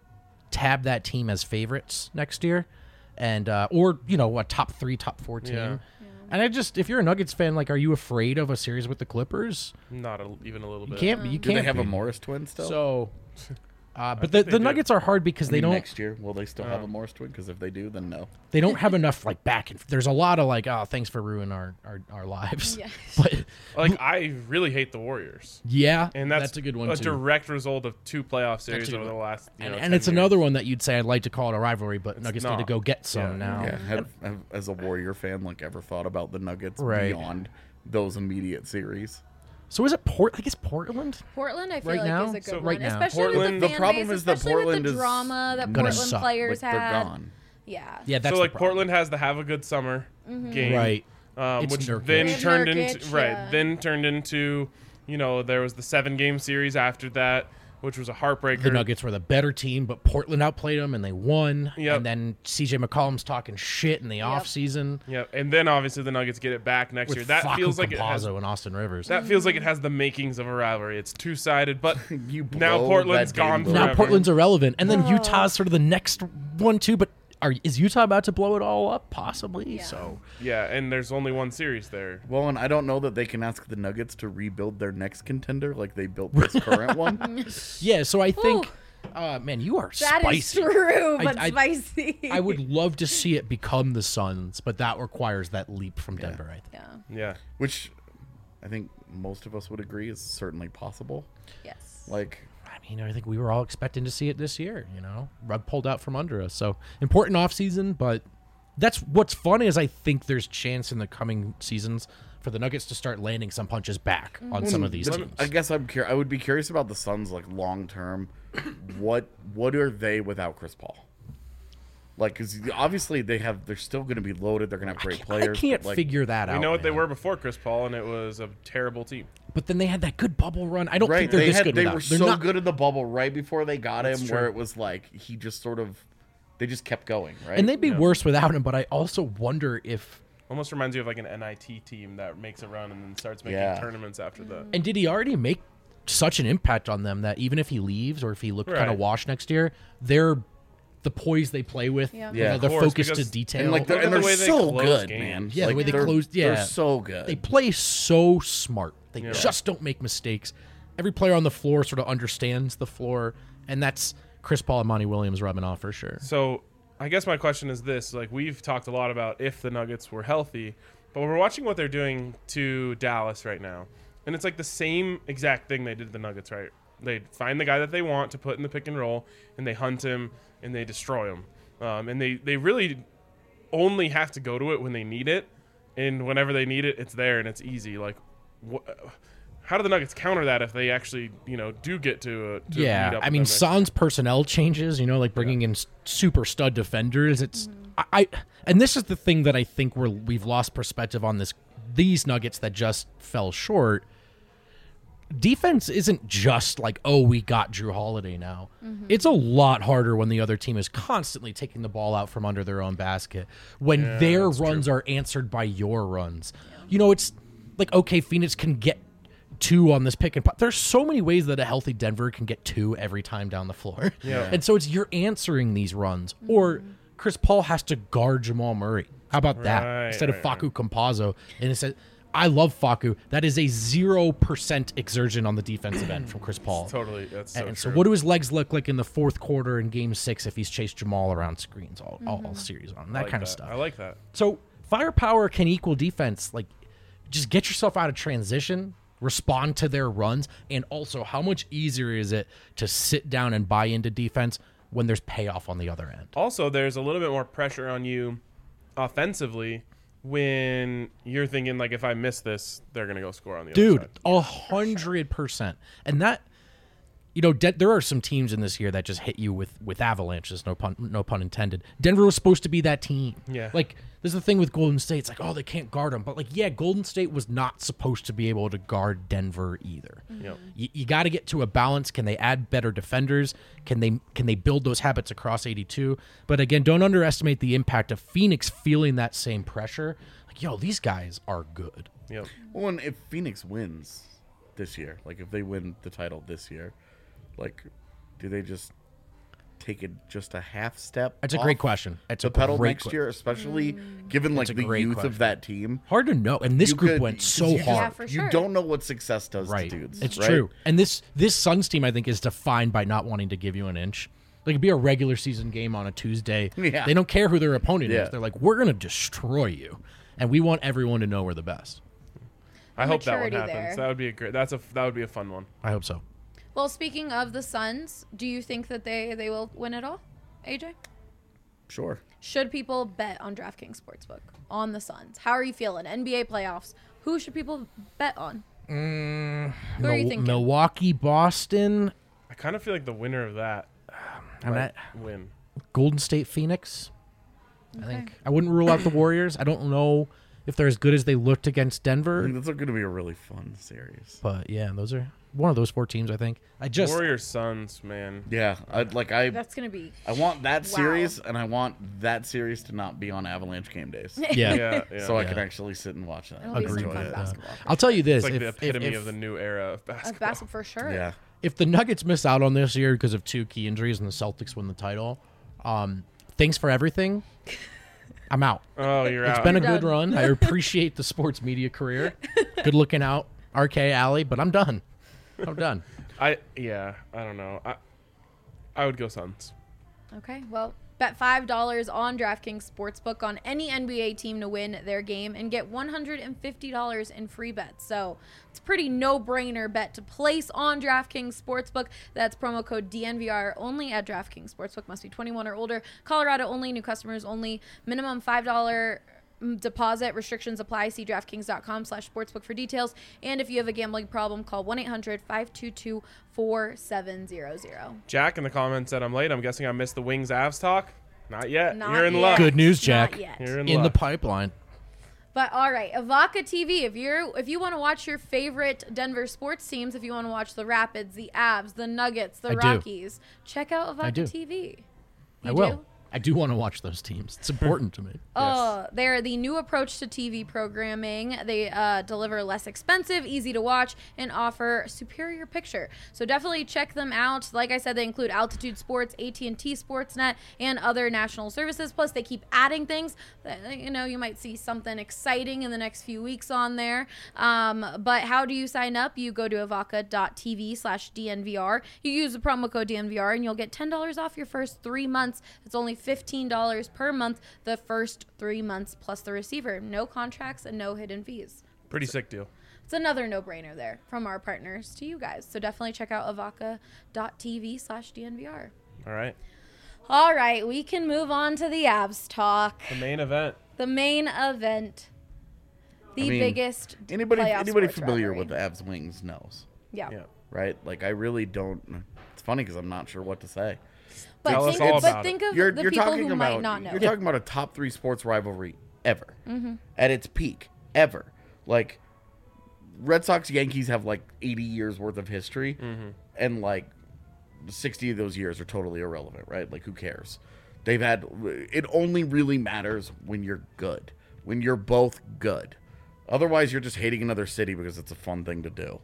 E: tab that team as favorites next year, and uh, or you know a top three, top four team.
H: Yeah.
E: And I just, if you're a Nuggets fan, like, are you afraid of a series with the Clippers?
H: Not a, even a little
E: You
H: bit.
E: can't be. You
G: Do
E: can't
G: they have
E: be.
G: a Morris twin still?
E: So, uh, but the,
H: think they
E: the
H: do.
E: Nuggets are hard because
G: I
E: they
G: mean,
E: don't
G: next year will they still have
H: Oh.
G: a Morris twin? Because if they do, then no.
E: they don't have enough like back and there's a lot of like, oh, thanks for ruining our our, our lives.
F: Yeah.
E: But
H: Like, I really hate the Warriors.
E: yeah,
H: And that's,
E: a good one
H: a
E: too.
H: direct result of two playoff series
E: a good
H: over the
E: one.
H: last, you
E: and
H: know,
E: and
H: ten
E: it's another
H: years.
E: one that you'd say I'd like to call it a rivalry, but Nuggets need to
H: not.
E: go get some
H: Yeah.
E: now.
G: Yeah, have, have, as a Warrior fan, like ever thought about the Nuggets
E: Right.
G: beyond those immediate series?
E: So is it Port? I guess Portland.
F: Portland, I feel
E: Right
F: like
E: now?
F: is a good
H: So
F: one,
E: right now.
F: especially
H: Portland-
F: with
G: The
F: the, fan
G: problem
F: base,
G: is that
F: especially
G: Portland
F: with
G: is
F: the drama that
E: gonna
F: Portland
E: suck.
F: players
G: Like they're
F: had.
G: gone.
F: Yeah.
E: Yeah, that's
H: So,
E: the
H: like,
E: problem.
H: Portland has the have a good summer game.
E: Right.
H: Um,
E: It's
H: which
E: Nurkic.
H: then
F: They have
H: turned
F: Nurkic,
H: into right.
F: yeah.
H: Then turned into, you know, there was the seven game series after that, which was a heartbreaker.
E: The Nuggets were the better team, but Portland outplayed them and they won.
H: Yep.
E: And then C J McCollum's talking shit in the offseason.
H: Yeah, and then obviously the Nuggets get it back next year.
E: With
H: That
E: Facu
H: feels like it has.
E: Campazzo and Austin Rivers.
H: That feels like it has the makings of a rivalry. It's two sided, but
G: You
H: now
G: blow
H: Portland's
G: that game
H: gone
G: blue.
E: now
H: forever.
E: Portland's irrelevant, and then Utah's sort of the next one too. But are is Utah about to blow it all up? Possibly.
F: Yeah.
E: So
H: Yeah, and there's only one series there.
G: Well, and I don't know that they can ask the Nuggets to rebuild their next contender like they built this current one.
E: yeah. So I think, uh, man, you are
F: That is
E: spicy.
F: true,
E: I-
F: but
E: I-
F: spicy.
E: I would love to see it become the Suns, but that requires that leap from Denver. I think.
F: Yeah.
H: Yeah.
G: Which I think most of us would agree is certainly possible.
F: Yes.
G: Like,
E: I mean, I think we were all expecting to see it this year. You know, rug pulled out from under us. So important off season, but that's what's funny is I think there's chance in the coming seasons for the Nuggets to start landing some punches back on some of these
G: the-
E: teams.
G: I guess I'm cur- I would be curious about the Suns, like long term. what what are they without Chris Paul? Like, because obviously they have, they're still going to be loaded. They're going to have great
E: I
G: players.
E: can't
G: but, like,
E: figure that out.
H: We know what they
E: man.
H: were before Chris Paul, and it was a terrible team.
E: But then they had that good bubble run. I don't
G: Right,
E: think they're
G: they
E: this
G: had,
E: good.
G: they
E: without-
G: were
E: they're
G: so
E: not-
G: good in the bubble right before they got him,
H: That's
G: where
H: true.
G: it was like he just sort of, they just kept going, right?
E: And they'd be worse without him. But I also wonder if.
H: Almost reminds you of like an N I T team that makes a run and then starts making
G: Yeah.
H: tournaments after that.
E: And did he already make such an impact on them that even if he leaves or if he looked kind
H: Right.
E: of washed next year, they're the poise they play with.
F: Yeah.
E: you
G: Yeah.
E: know,
G: Of
E: they're
H: course,
E: focused to
H: because-
E: detail.
G: and like they're,
H: Look
G: and
H: at the
G: they're
H: way they
G: so
H: close
G: good,
H: games.
G: man.
E: Yeah, the
G: like,
E: way they
G: they're,
E: closed- yeah.
G: they're so good.
E: They play so smart. They
H: Yeah.
E: just don't make mistakes. Every player on the floor sort of understands the floor, and that's Chris Paul and Monty Williams rubbing off for sure.
H: So I guess my question is this: like we've talked a lot about if the Nuggets were healthy, but we're watching what they're doing to Dallas right now, and it's like the same exact thing they did to the Nuggets, right? They find the guy that they want to put in the pick and roll, and they hunt him and they destroy him, um, and they they really only have to go to it when they need it, and whenever they need it, it's there and it's easy. Like, wh- how do the Nuggets counter that if they actually, you know, do get to, uh, to meet
E: Yeah,
H: up
E: I
H: with
E: mean,
H: them next
E: Sans personnel changes, you know, like bringing in s- super stud defenders. It's I, I, and this is the thing that I think we're we've lost perspective on this. These Nuggets that just fell short. Defense isn't just like, oh, we got Drew Holiday now. It's a lot harder when the other team is constantly taking the ball out from under their own basket. When
H: Yeah,
E: their
H: that's
E: runs are answered by your runs. You know, it's like, okay, Phoenix can get two on this pick and pop. There's so many ways that a healthy Denver can get two every time down the floor.
H: Yeah.
E: And so it's you're answering these runs. Or Chris Paul has to guard Jamal Murray. How about that?
H: Right,
E: Instead
H: right,
E: of Facu Campazzo. And it said, I love Facu. That is a zero percent exertion on the defensive end from Chris Paul.
H: Totally, that's so
E: and
H: true.
E: so what do his legs look like in the fourth quarter in game six if he's chased Jamal around screens all, all, all series on? That
H: I like
E: kind
H: that.
E: of stuff.
H: I like that.
E: So firepower can equal defense. Like, just get yourself out of transition, respond to their runs, and also how much easier is it to sit down and buy into defense when there's payoff on the other end.
H: Also, there's a little bit more pressure on you offensively when you're thinking, like, if I miss this, they're going to go score on the
E: Dude,
H: other side.
E: a hundred percent. And that, you know, De- there are some teams in this year that just hit you with, with avalanches, no pun, no pun intended. Denver was supposed to be that team.
H: Yeah.
E: Like, there's the thing with Golden State. It's like, oh, they can't guard them. But, like, yeah, Golden State was not supposed to be able to guard Denver either.
H: Yep.
E: You, you got to get to a balance. Can they add better defenders? Can they can they build those habits across eighty-two? But, again, don't underestimate the impact of Phoenix feeling that same pressure. Like, yo, these guys are good.
H: Yep.
G: Well, and if Phoenix wins this year, like if they win the title this year, like, do they just take it just a half step?
E: That's a
G: off
E: great question. It's
G: the
E: a
G: pedal
E: great
G: next
E: que-
G: year, especially given like
E: a
G: the
E: great
G: youth
E: question.
G: of that team.
E: Hard to know. And this
G: You
E: group
G: could-
E: went
G: 'cause
E: so
G: you just-
E: hard.
F: Yeah, for
G: You
F: sure.
G: don't know what success does
E: Right.
G: to dudes.
E: It's
G: right?
E: true. And this this Suns team, I think, is defined by not wanting to give you an inch. Like, it'd be a regular season game on a Tuesday.
G: Yeah.
E: They don't care who their opponent
G: Yeah.
E: is. They're like, we're going to destroy you. And we want everyone to know we're the best.
H: I hope that one
F: Maturity
H: happens.
F: there.
H: That would be a great. That's a that would be a fun one.
E: I hope so.
F: Well, speaking of the Suns, do you think that they, they will win it all, A J?
G: Sure.
F: Should people bet on DraftKings Sportsbook on the Suns? How are you feeling? N B A playoffs. Who should people bet on?
E: Mm,
F: Who are you
E: Mil-
F: thinking?
E: Milwaukee, Boston,
H: I kind of feel like the winner of that
E: and
H: might
E: that
H: win.
E: Golden State, Phoenix. I
F: Okay.
E: think I wouldn't rule out the Warriors. I don't know if they're as good as they looked against
G: I
E: Denver,
G: think that's going to be a really fun series.
E: but yeah, those are one of those four teams. I think. I just
H: Warriors Suns, man.
G: Yeah, I'd like I
F: That's going to be.
G: I want that
F: Wow.
G: series, and I want that series to not be on Avalanche game days,
E: yeah.
H: Yeah, yeah.
G: so I
E: Yeah.
G: can actually sit and watch that.
F: It'll be some
E: Agreed
F: fun
E: with that.
F: basketball.
E: I'll tell you this:
H: It's like
E: if,
H: the epitome
E: if, if,
H: of the new era of
F: Of
H: basketball.
F: basketball for sure.
G: Yeah.
E: if the Nuggets miss out on this year because of two key injuries and the Celtics win the title, um, thanks for everything. I'm out.
H: Oh, you're
E: It's
H: out.
E: been a
F: You're
E: good
F: done.
E: run. I appreciate the sports media career. Good looking out, R K Alley, but I'm done. I'm done.
H: I yeah. I don't know. I I would go Suns.
F: Okay, well, bet five dollars on DraftKings Sportsbook on any N B A team to win their game and get one hundred fifty dollars in free bets. So it's a pretty no-brainer bet to place on DraftKings Sportsbook. That's promo code D N V R only at DraftKings Sportsbook. Must be twenty-one or older. Colorado only. New customers only. Minimum five dollars deposit. Restrictions apply. See DraftKings.com slash sportsbook for details. And if you have a gambling problem, call one eight hundred five two two four seven zero zero.
H: Jack in the comments said I'm late. I'm guessing I missed the Wings Avs talk. Not yet.
F: Not
H: You're in
F: yet.
H: luck.
E: Good news,
F: Not
E: Jack.
F: yet.
H: You're in,
E: In the
H: luck.
E: pipeline.
F: But all right, Avaca T V. If you're if you want to watch your favorite Denver sports teams, if you want to watch the Rapids, the Avs, the Nuggets, the
E: I do.
F: Rockies, check out
E: I do.
F: Avaca T V. You
E: I will.
F: do?
E: I do want to watch those teams. It's important to me.
F: Oh, they're the new approach to T V programming. They uh, deliver less expensive, easy to watch, and offer superior picture. So definitely check them out. Like I said, they include Altitude Sports, A T and T Sportsnet, and other national services. Plus, they keep adding things. That, you know, you might see something exciting in the next few weeks on there. Um, but how do you sign up? You go to avaca.tv slash DNVR. You use the promo code D N V R, and you'll get ten dollars off your first three months. It's only fifteen dollars per month the first three months plus the receiver. No contracts and no hidden fees.
H: Pretty sick deal.
F: It's another no-brainer there from our partners to you guys. So definitely check out avaca.tv slash DNVR.
H: All right.
F: All right, we can move on to the Avs talk.
H: The main event.
F: The main event. The
G: I mean,
F: biggest
G: Anybody
F: playoff
G: anybody
F: sports
G: familiar
F: rivalry.
G: with the Avs Wings knows,
F: Yeah.
H: Yeah.
G: right? Like I really don't. It's funny because I'm not sure what to say.
F: But
H: Tell us
F: think,
H: all
F: of, but
H: about
F: think
H: it.
F: of
G: You're
F: the
G: you're
F: people
G: talking
F: who
G: about
F: might not know.
G: you're talking about a top three sports rivalry ever at its peak ever. Like Red Sox Yankees have like eighty years worth of history, and like sixty of those years are totally irrelevant, right? Like who cares? They've had it only really matters when you're good, when you're both good. Otherwise, you're just hating another city because it's a fun thing to do.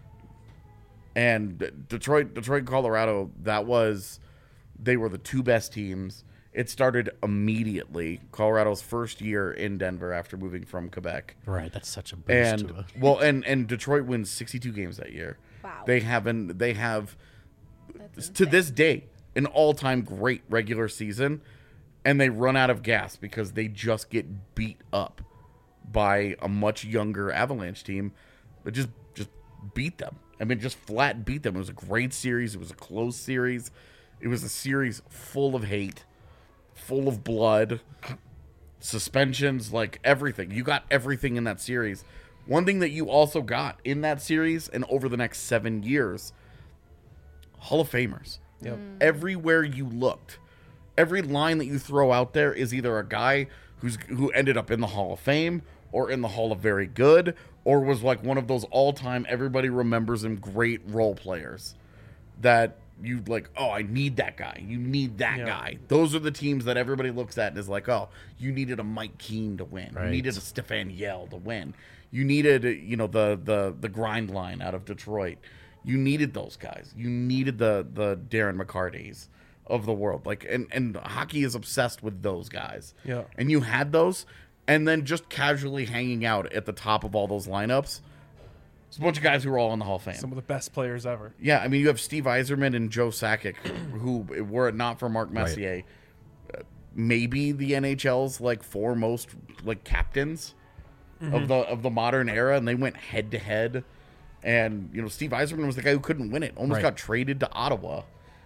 G: And Detroit, Detroit, Colorado, that was, they were the two best teams. It started immediately. Colorado's first year in Denver after moving from Quebec.
E: Right. That's such a boost.
G: And
E: to a,
G: well, and and Detroit wins sixty-two games that year.
F: Wow.
G: They haven't. They have
F: That's
G: to
F: insane.
G: this day an all-time great regular season, and they run out of gas because they just get beat up by a much younger Avalanche team, but just just beat them. I mean, just flat beat them. It was a great series. It was a close series. It was a series full of hate, full of blood, suspensions, like everything. You got everything in that series. One thing that you also got in that series and over the next seven years, Hall of Famers.
H: Yep.
G: Everywhere you looked, every line that you throw out there is either a guy who's who ended up in the Hall of Fame or in the Hall of Very Good, or was like one of those all-time, everybody remembers him, great role players that you like, oh, I need that guy. You need that
H: Yeah.
G: guy. Those are the teams that everybody looks at and is like, oh, you needed a Mike Keane to win.
E: Right.
G: You needed a Stefan Yell to win. You needed, you know, the the the grind line out of Detroit. You needed those guys. You needed the the Darren McCartys of the world. Like, and and hockey is obsessed with those guys.
H: Yeah.
G: And you had those, and then just casually hanging out at the top of all those lineups. It's a bunch of guys who were all in the Hall of Fame.
H: Some of the best players ever.
G: Yeah, I mean, you have Steve Yzerman and Joe Sakic, who, were it not for Mark Messier, uh, maybe the N H L's like foremost like captains of the of the modern era, and they went head to head. And you know, Steve Yzerman was the guy who couldn't win it, almost
E: Right.
G: got traded to Ottawa.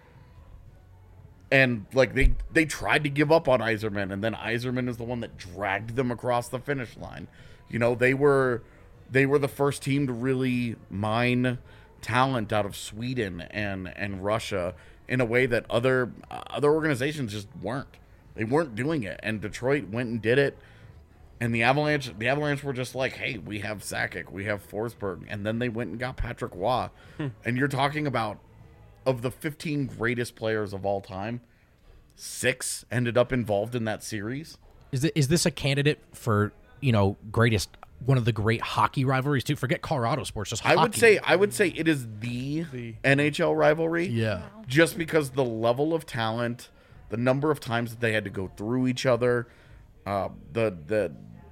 G: And like they they tried to give up on Yzerman, and then Yzerman is the one that dragged them across the finish line. You know, they were they were the first team to really mine talent out of Sweden and and Russia in a way that other uh, other organizations just weren't. They weren't doing it, and Detroit went and did it. And the Avalanche, the Avalanche were just like, "Hey, we have Sakic, we have Forsberg," and then they went and got Patrick Waugh. And you're talking about, of the fifteen greatest players of all time, six ended up involved in that series.
E: Is it, is this a candidate for, you know, greatest, one of the great hockey rivalries too? Forget Colorado sports, just
G: I
E: hockey.
G: would say, I would say it is the,
H: The-
G: N H L rivalry.
E: Yeah.
G: Just because the level of talent, the number of times that they had to go through each other, uh, the the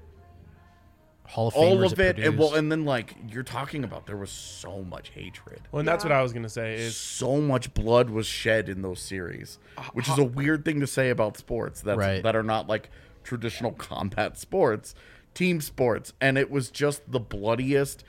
E: Hall of
G: all
E: Famers
G: of it, and well,
E: produced.
G: and then like you're talking about, there was so much hatred.
H: Well, and that's what I was gonna say is
G: So much blood was shed in those series, which is a weird thing to say about sports that's,
E: Right.
G: that are not like traditional combat sports, team sports. And it was just the bloodiest,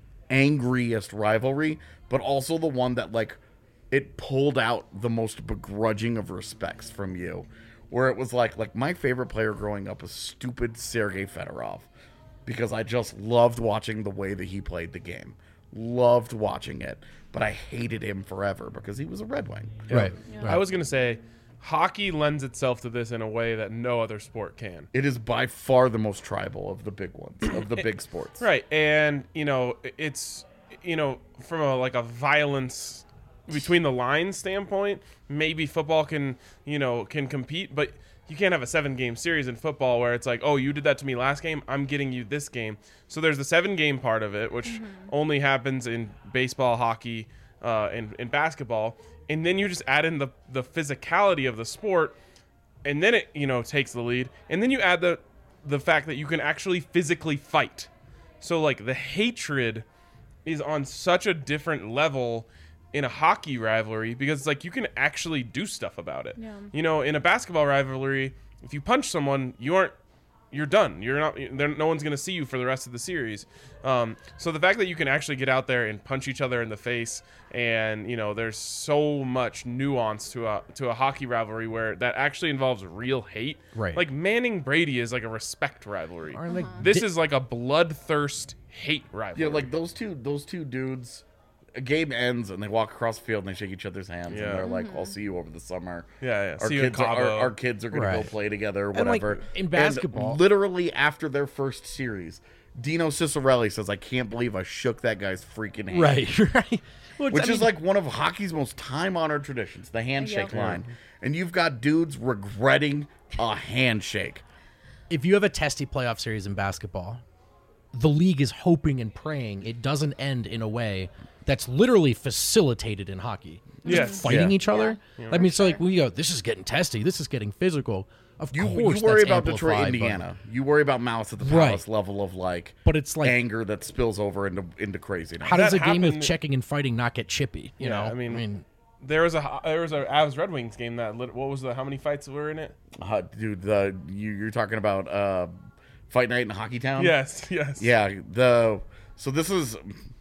G: angriest rivalry, but also the one that like it pulled out the most begrudging of respects from you, where it was like, like my favorite player growing up was stupid Sergei Fedorov, because I just loved watching the way that he played the game. Loved watching it, but I hated him forever because he was a Red Wing.
E: Right.
H: I was gonna say, hockey lends itself to this in a way that no other sport can.
G: It is by far the most tribal of the big ones, of the big sports.
H: Right, and you know, it's you know, from a like a violence between the lines standpoint, maybe football can you know can compete, but you can't have a seven game series in football where it's like, oh, you did that to me last game, I'm getting you this game. So there's the seven game part of it, which only happens in baseball, hockey, uh, and, and basketball. And then you just add in the, the physicality of the sport, and then it, you know, takes the lead. And then you add the the fact that you can actually physically fight. So like the hatred is on such a different level in a hockey rivalry, because it's like you can actually do stuff about it.
F: Yeah.
H: You know, in a basketball rivalry, if you punch someone, you aren't, you're done. You're not. There, no one's going to see you for the rest of the series. Um, so the fact that you can actually get out there and punch each other in the face, and you know, there's so much nuance to a to a hockey rivalry where that actually involves real hate.
E: Right.
H: Like Manning Brady is like a respect rivalry.
E: Aren't they-
H: This
E: Di-
H: is like a bloodthirst hate rivalry.
G: Yeah, like those two, those two dudes. A game ends and they walk across the field and they shake each other's hands
H: Yeah.
G: and they're like, "I'll see you over the summer."
H: Yeah, yeah.
G: Our
H: See you in
G: kids, are, our,
H: Cabo.
G: our kids are gonna
E: Right.
G: go play together,
E: And, like,
G: whatever.
E: in
G: And
E: basketball-
G: literally after their first series, Dino Cicerelli says, "I can't believe I shook that guy's freaking hand."
E: Right, right. Well,
G: Which
E: I
G: is
E: mean,
G: like one of hockey's most time-honored traditions, the handshake
F: Yeah.
G: line. And you've got dudes regretting a handshake.
E: if you have a testy playoff series in basketball, the league is hoping and praying it doesn't end in a way that's literally facilitated in hockey. Just
H: Yeah.
E: fighting
G: Yeah.
E: each other. I mean, so like we go, this is getting testy. This is getting physical. Of
G: You,
E: course,
G: you worry
E: that's
G: about Detroit,
E: amplified, but-
G: Indiana. You worry about Malice at the
E: Right.
G: Palace level of like,
E: But it's like-
G: anger that spills over into into craziness.
E: How does
H: That
E: a game of
H: happened-
E: checking and fighting not get chippy? You
H: Yeah,
E: know,
H: I mean, There was a there was a Avs Red Wings game that lit, what was the how many fights were in it?
G: Uh, dude, the you, you're talking about uh, Fight Night in Hockey Town.
H: Yes, yes.
G: Yeah. The so this is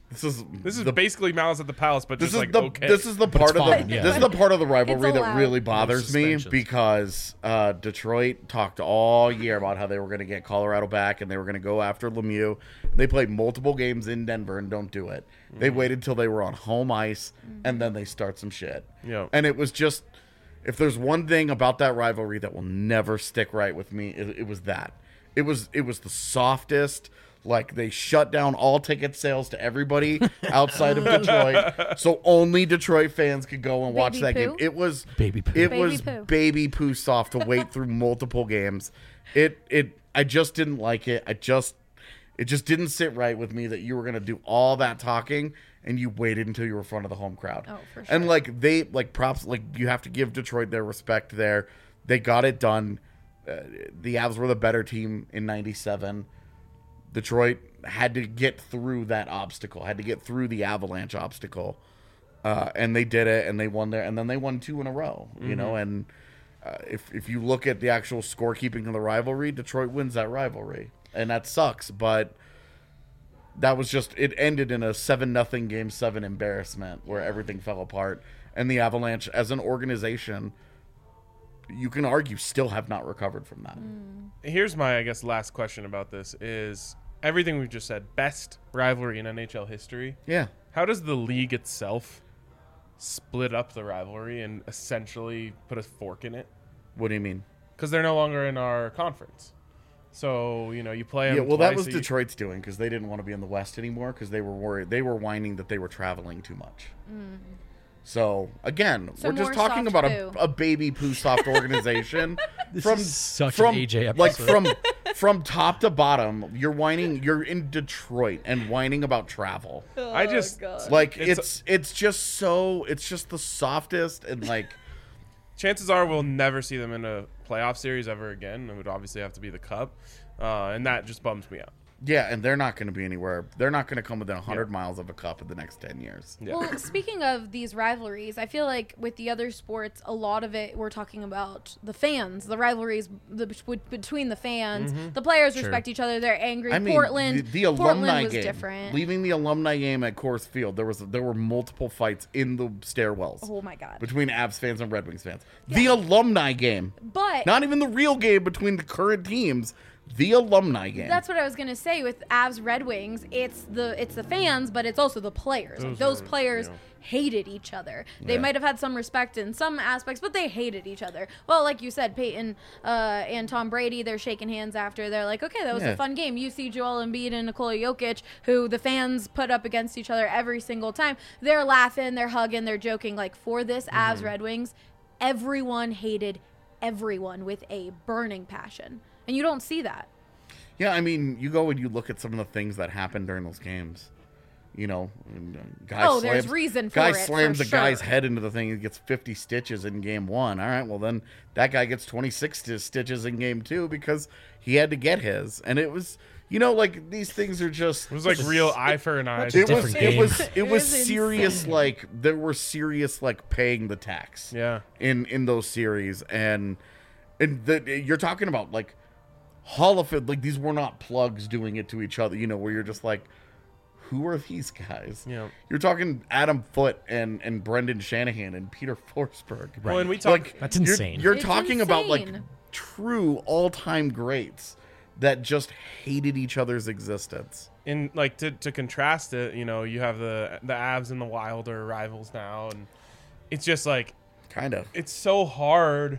G: This is
H: This is
G: the,
H: basically Malice at the Palace, but
G: this
H: just
G: is
H: like
G: the
H: okay.
G: this is the part of
E: fine,
G: the
E: yeah.
G: this is the part of the rivalry
F: It's
G: that
F: allowed.
G: really bothers me
E: suspensions.
G: because uh, Detroit talked all year about how they were going to get Colorado back and they were going to go after Lemieux. They played multiple games in Denver and don't do it. They
H: Mm-hmm.
G: waited till they were on home ice and then they start some shit.
H: Yeah.
G: And it was just, if there's one thing about that rivalry that will never stick right with me, it, it was that. It was it was the softest. Like, they shut down all ticket sales to everybody outside of Detroit, so only Detroit fans could go and watch
F: Baby
G: that
F: poo?
G: game. It was
E: Baby poo.
G: It
F: Baby
G: was
F: poo.
G: baby poo soft to wait through multiple games. It it I just didn't like it. I just it just didn't sit right with me that you were gonna do all that talking and you waited until you were in front of the home crowd.
F: Oh, for
G: And
F: sure.
G: like they like props like you have to give Detroit their respect there. They got it done. Uh, the Avs were the better team in ninety-seven. Detroit had to get through that obstacle, had to get through the Avalanche obstacle, uh, and they did it, and they won there, and then they won two in a row. You
H: Mm-hmm.
G: know, and uh, if if you look at the actual scorekeeping of the rivalry, Detroit wins that rivalry, and that sucks. But that was just it ended in a seven nothing game seven embarrassment where everything fell apart, and the Avalanche as an organization, you can argue, still have not recovered from that.
H: Here's my, I guess, last question about this is everything we've just said, best rivalry in N H L history.
G: Yeah.
H: How does the league itself split up the rivalry and essentially put a fork in it?
G: What do you mean?
H: Because they're no longer in our conference. So, you know, you play them
G: Yeah, well, that
H: twice
G: was
H: a ye-
G: Detroit's doing because they didn't want to be in the West anymore because they were worried. They were whining that they were traveling too much. So again,
F: So
G: we're just
F: more
G: talking
F: soft
G: about a,
F: poo.
G: a baby poo soft organization from
E: is such
G: from
E: an A J
G: like
E: episode.
G: from from top to bottom. You're whining. You're in Detroit and whining about travel.
H: I just
G: Like
H: It's-
G: it's it's just so it's just the softest and like
H: chances are we'll never see them in a playoff series ever again. It would obviously have to be the Cup, uh, and that just bums me out.
G: yeah, and they're not going to be anywhere. They're not going to come within one hundred
H: Yeah.
G: miles of a cup in the next ten years.
H: Yeah.
F: Well, speaking of these rivalries, I feel like with the other sports, a lot of it we're talking about the fans, the rivalries the, between the fans. The players respect each other; they're angry.
G: I mean,
F: Portland,
G: the, the alumni
F: Portland was
G: game,
F: different.
G: leaving the alumni game at Coors Field, there was there were multiple fights in the stairwells
F: Oh my god!
G: between Avs fans and Red Wings fans. The alumni game,
F: But
G: not even the real game between the current teams. The alumni game.
F: that's what I was gonna say with Avs Red Wings. It's the it's the fans, but it's also the players. Like,
H: Those
F: those
H: are,
F: players
H: you know.
F: hated each other. They
G: Yeah.
F: might have had some respect in some aspects, but they hated each other. Well, like you said, Peyton uh, and Tom Brady, they're shaking hands after. They're like, okay, that was
G: Yeah.
F: a fun game. You see Joel Embiid and Nikola Jokic, who the fans put up against each other every single time. They're laughing, they're hugging, they're joking. Like for this Avs Red Wings, everyone hated everyone with a burning passion, and you don't see that.
G: Yeah, I mean, you go and you look at some of the things that happened during those games. You know, and, uh, guy
F: Oh, there's
G: slams,
F: reason for
G: guy
F: it,
G: slams
F: for
G: the guy's
F: sure.
G: head into the thing and gets fifty stitches in game one. All right, well then that guy gets twenty-six sti- stitches in game two because he had to get his. And it was, you know, like these things are just.
H: It was like real eye for an eye.
G: It was.
E: different
G: It was.
E: game.
G: It was
F: was
G: serious.
F: insane.
G: Like there were serious like paying the tax.
H: Yeah.
G: In in those series and and the, you're talking about like Hall of Fame, like these were not plugs doing it to each other, you know, where you're just like, who are these guys?
H: Yeah.
G: You're talking Adam Foote and, and Brendan Shanahan and Peter Forsberg.
H: Well, and we talk.
G: Like,
E: That's
G: you're-
E: insane.
G: You're,
F: It's
G: talking about like
F: insane.
G: true all-time greats that just hated each other's existence.
H: in like to, to contrast it, you know, you have the the Avs and the Wild are rivals now, and it's just like
G: Kind of.
H: it's so hard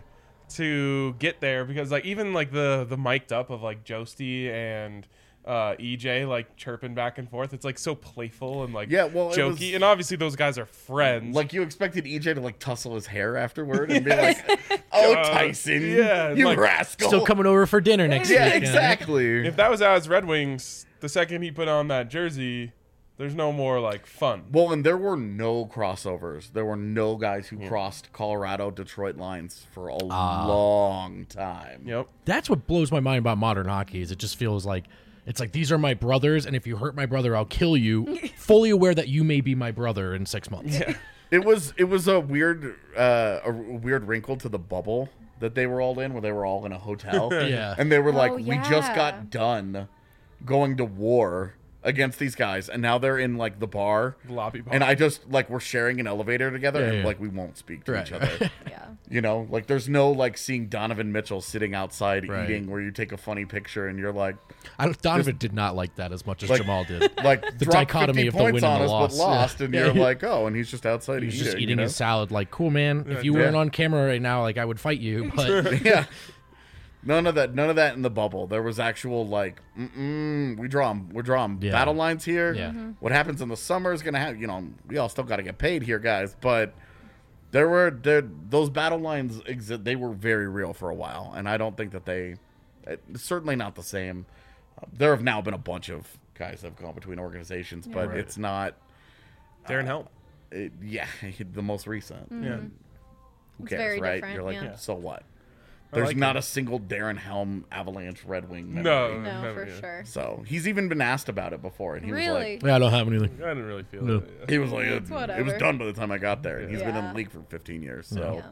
H: to get there because like even like the the mic'd up of like Josty and uh, E J like chirping back and forth, it's like so playful and like
G: Yeah, well, it
H: jokey,
G: was-
H: and obviously those guys are friends.
G: Like you expected E J to like tussle his hair afterward and be like, "Oh,
H: Uh,
G: Tyson,
H: yeah,
G: you
H: like-
G: rascal!"
E: Still coming over for dinner next
G: Yeah,
E: week. you know?
G: exactly.
H: if that was Avs Red Wings, the second he put on that jersey, there's no more like fun.
G: Well, and there were no crossovers. There were no guys who crossed Colorado Detroit lines for a long time.
H: Yep.
E: That's what blows my mind about modern hockey is it just feels like it's like these are my brothers, and if you hurt my brother, I'll kill you. Fully aware that you may be my brother in six months.
G: It was it was a weird uh, a weird wrinkle to the bubble that they were all in, where they were all in a hotel.
E: Yeah.
G: And they were like,
F: Oh,
G: "We just
F: yeah.
G: got done going to war against these guys, and now they're in like the bar,
H: Lobby bar.
G: and I just like we're sharing an elevator together,
E: Yeah,
G: and
E: yeah.
G: like we won't speak to
E: Right.
G: each other.
F: Yeah.
G: You know, like there's no like seeing Donovan Mitchell sitting outside
E: Right.
G: eating, where you take a funny picture and you're like,
E: I don't, Donovan did not like that as much as
G: Like-
E: Jamal did.
G: like
E: The
G: dropped
E: dichotomy
G: fifty
E: of the
G: points
E: win
G: on
E: and the
G: us,
E: loss.
G: but lost,
E: Yeah.
G: and
E: Yeah,
G: you're
E: he-
G: like, oh, and he's just outside
E: He was
G: eating.
E: just eating
G: you know?
E: his salad. Like, cool, man. If you weren't
G: Yeah.
E: on camera right now, like I would fight you. But
G: Yeah. None of that. None of that in the bubble. There was actual like, mm-mm, we draw 'em- we're drawing
E: Yeah.
G: battle lines here.
E: Yeah. Mhm.
G: What happens in the summer is gonna have. You know, we all still got to get paid here, guys. But there were there those battle lines exist. They were very real for a while, and I don't think that they. It's certainly not the same. Uh, there have now been a bunch of guys that have gone between organizations, but
H: Right.
G: it's not.
H: Darren Helm.
G: It, yeah, the most recent.
H: Yeah.
G: Who
F: It's
G: cares,
F: very
G: right?
F: different,
G: You're like,
F: yeah.
G: so what?
H: I
G: There's
H: like
G: not
H: it.
G: a single Darren Helm Avalanche Red Wing memory.
H: No,
F: No,
H: never,
F: for
H: yeah.
F: sure.
G: So he's even been asked about it before, and he
F: Really?
G: was
E: yeah, I don't have anything.
H: I didn't really feel
E: No.
H: it.
G: like, he was like, it,
F: It's
G: it was
F: whatever.
G: done by the time I got there, and he's been in
F: Yeah.
G: the league for fifteen years. So,
F: Yeah.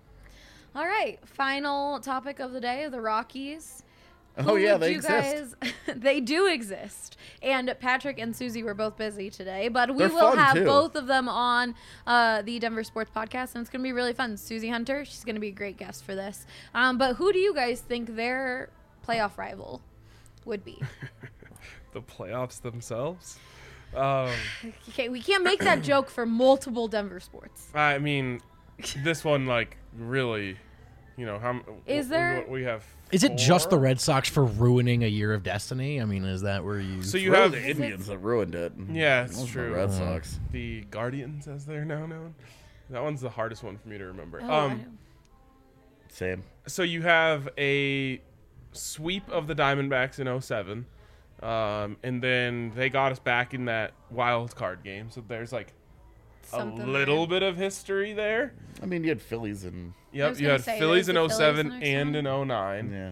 F: All right. Final topic of the day: the Rockies.
G: oh
F: Who
G: yeah,
F: would
G: they
F: you
G: exist.
F: Guys, they do exist. And Patrick and Susie were both busy today, but we
G: They're
F: will
G: fun,
F: have
G: too.
F: both of them on uh, the Denver Sports Podcast, and it's going to be really fun. Susie Hunter, she's going to be a great guest for this. Um, but who do you guys think their playoff rival would be?
H: The playoffs themselves. Um,
F: Okay, we can't make that joke for multiple Denver sports.
H: I mean, this one like really, you know, how
F: Is
H: w-
F: there-
H: w- we have.
E: Is it just the
H: four?
E: Red Sox for ruining a year of destiny? I mean, is that where you?
H: So you
G: Really
H: have
G: the Indians that ruined it.
H: Yeah,
G: It
H: it's
G: wasn't
H: true.
G: The Red Sox.
H: the Guardians, as they're now known. That one's the hardest one for me to remember.
F: Oh, I
H: um,
F: know.
G: Same.
H: so you have a sweep of the Diamondbacks in oh seven, um, and then they got us back in that wild card game. So there's like
F: Something
H: a little
F: there.
H: bit of history there.
G: I mean, you had Phillies and
H: Yep,
F: was
H: you
F: gonna
H: had
F: say,
H: Phillies in
F: there's
H: oh
F: the
H: seven
F: Phillies in
H: and
F: oh
H: in oh nine.
G: yeah.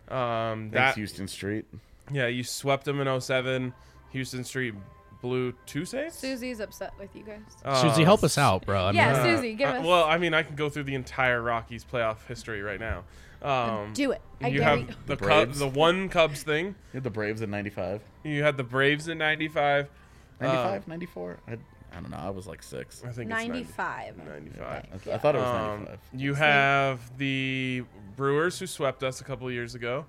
H: Um,
G: Thanks,
H: that
G: Houston Street.
H: yeah, you swept them in oh seven. Houston Street blew two saves.
F: Susie's upset with you guys.
E: Susie,
H: Uh,
E: help us out, bro. I mean,
F: Yeah,
H: Uh,
F: Susie, give
H: uh,
F: us.
H: Well, I mean, I can go through the entire Rockies playoff history right now. Um,
F: Do it. I
H: you
F: dare
H: have
F: you.
H: the
G: The
H: Cubs,
G: Braves.
H: the one Cubs thing.
G: You had the Braves in ninety-five.
H: You had the Braves in ninety-five.
G: ninety-five, ninety-four? I, I don't know. I was like six.
H: I think
F: ninety-five.
H: It's ninety-five.
G: I, th- I thought it was
H: Um,
G: ninety-five.
H: you have the Brewers who swept us a couple years ago.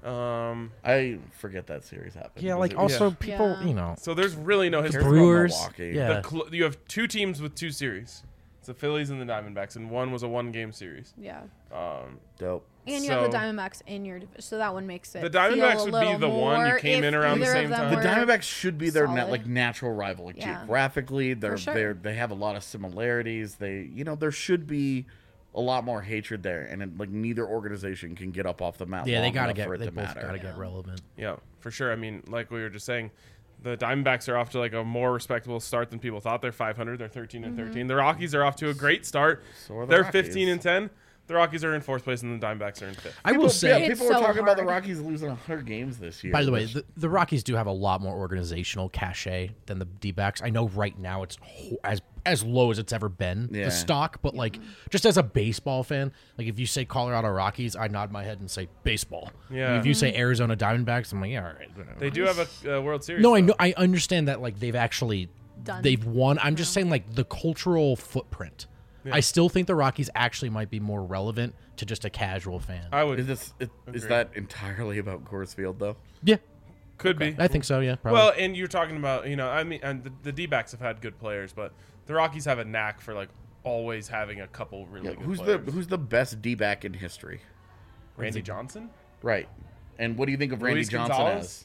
H: Um,
G: I forget that series happened.
E: yeah,
G: Was
E: like
G: it-
E: also
H: Yeah.
E: people,
F: Yeah.
E: you know,
H: so there's really no
G: Cares
H: history.
G: about
E: Brewers.
G: Milwaukee.
E: Yeah.
H: The cl- you have two teams with two series. It's the Phillies and the Diamondbacks, and one was a one-game series.
F: Yeah.
H: Um,
G: Dope.
F: And you have the
H: So-
F: Diamondbacks in your division, so that one makes it.
H: The Diamondbacks
F: feel a
H: would be
F: little
H: the one you
F: more
H: came in
F: if
H: around the
F: either of
H: same
F: them
H: time.
G: The
F: were-
G: Diamondbacks should be their na-
F: solid.
G: like natural rival. Like
F: Yeah.
G: geographically, they're
F: sure.
G: they're they have a lot of similarities. They you know there should be a lot more hatred there, and it, like neither organization can get up off the mat.
E: yeah, they
G: long
E: gotta
G: enough
E: get,
G: for it
E: they
G: to
E: both
G: matter.
E: gotta get relevant.
H: Yeah, for sure. I mean, like we were just saying, the Diamondbacks are off to like a more respectable start than people thought. They're five hundred. They're thirteen and thirteen. The Rockies are off to a great start.
G: So are the
H: They're
G: Rockies.
H: fifteen and ten. The Rockies are in fourth place, and the Diamondbacks are in fifth.
E: I will
G: People,
E: say,
G: yeah,
F: It's
G: people were
F: so
G: talking about the
F: hard.
G: Rockies losing one hundred games this year.
E: by the way,
G: which-
E: the, the Rockies do have a lot more organizational cachet than the D-backs. I know right now it's ho- as as low as it's ever been,
G: Yeah.
E: the stock, but like just as a baseball fan, like if you say Colorado Rockies, I nod my head and say baseball.
H: Yeah.
E: If you say Arizona Diamondbacks, I'm like, yeah, all right. whatever.
H: They do have a uh, World Series.
E: No, I
H: though.
E: know, I understand that like they've actually
F: Done.
E: they've won. I'm just saying like the cultural footprint. I still think the Rockies actually might be more relevant to just a casual fan.
H: I would.
G: is this it, is
H: Agreed.
G: that entirely about Coors Field though?
E: yeah,
H: Could be.
E: I think so. Yeah, probably.
H: Well, and you're talking about, you know, I mean, and the, the D-backs have had good players, but the Rockies have a knack for like always having a couple really
G: Yeah,
H: good
G: who's
H: players.
G: the who's the best D back in history?
H: Randy Johnson?
G: Right. And what do you think of Randy
H: Luis
G: Johnson
H: Gonzalez?
G: as?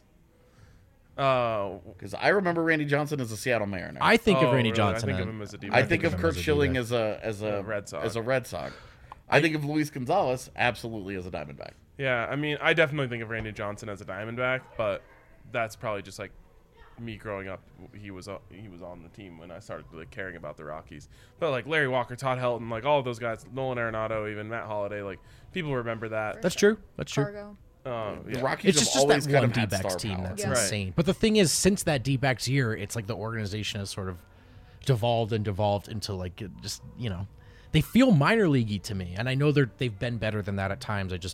H: Uh,
G: Because I remember Randy Johnson as a Seattle Mariner.
E: I think
H: oh,
E: of Randy
H: really?
E: Johnson.
H: I think
E: and-
H: of him as a
G: I
H: D-back.
G: think
E: of
G: of
E: him
G: Kurt
E: as a
G: Schilling
E: D-back.
G: as a as a
H: Yeah, Red Sox.
G: as a Red Sox. I think of Luis Gonzalez absolutely as a Diamondback.
H: Yeah, I mean, I definitely think of Randy Johnson as a Diamondback, but that's probably just like me growing up. He was uh, he was on the team when I started really caring about the Rockies. But like Larry Walker, Todd Helton, like all of those guys, Nolan Arenado, even Matt Holliday, like people remember that.
E: That's true. That's true.
F: Fargo.
H: Uh,
G: The
H: yeah.
G: Rockies
E: It's
G: have
E: just, just
G: always
E: that
G: kind
E: one
G: of had
E: D-backs
G: star
E: team
G: power.
E: that's
F: Yeah.
H: Right.
E: insane. But the thing is, since that D-backs year, it's like the organization has sort of devolved and devolved into like it just you know, they feel minor leaguey to me, and I know they're they've been better than that at times. I just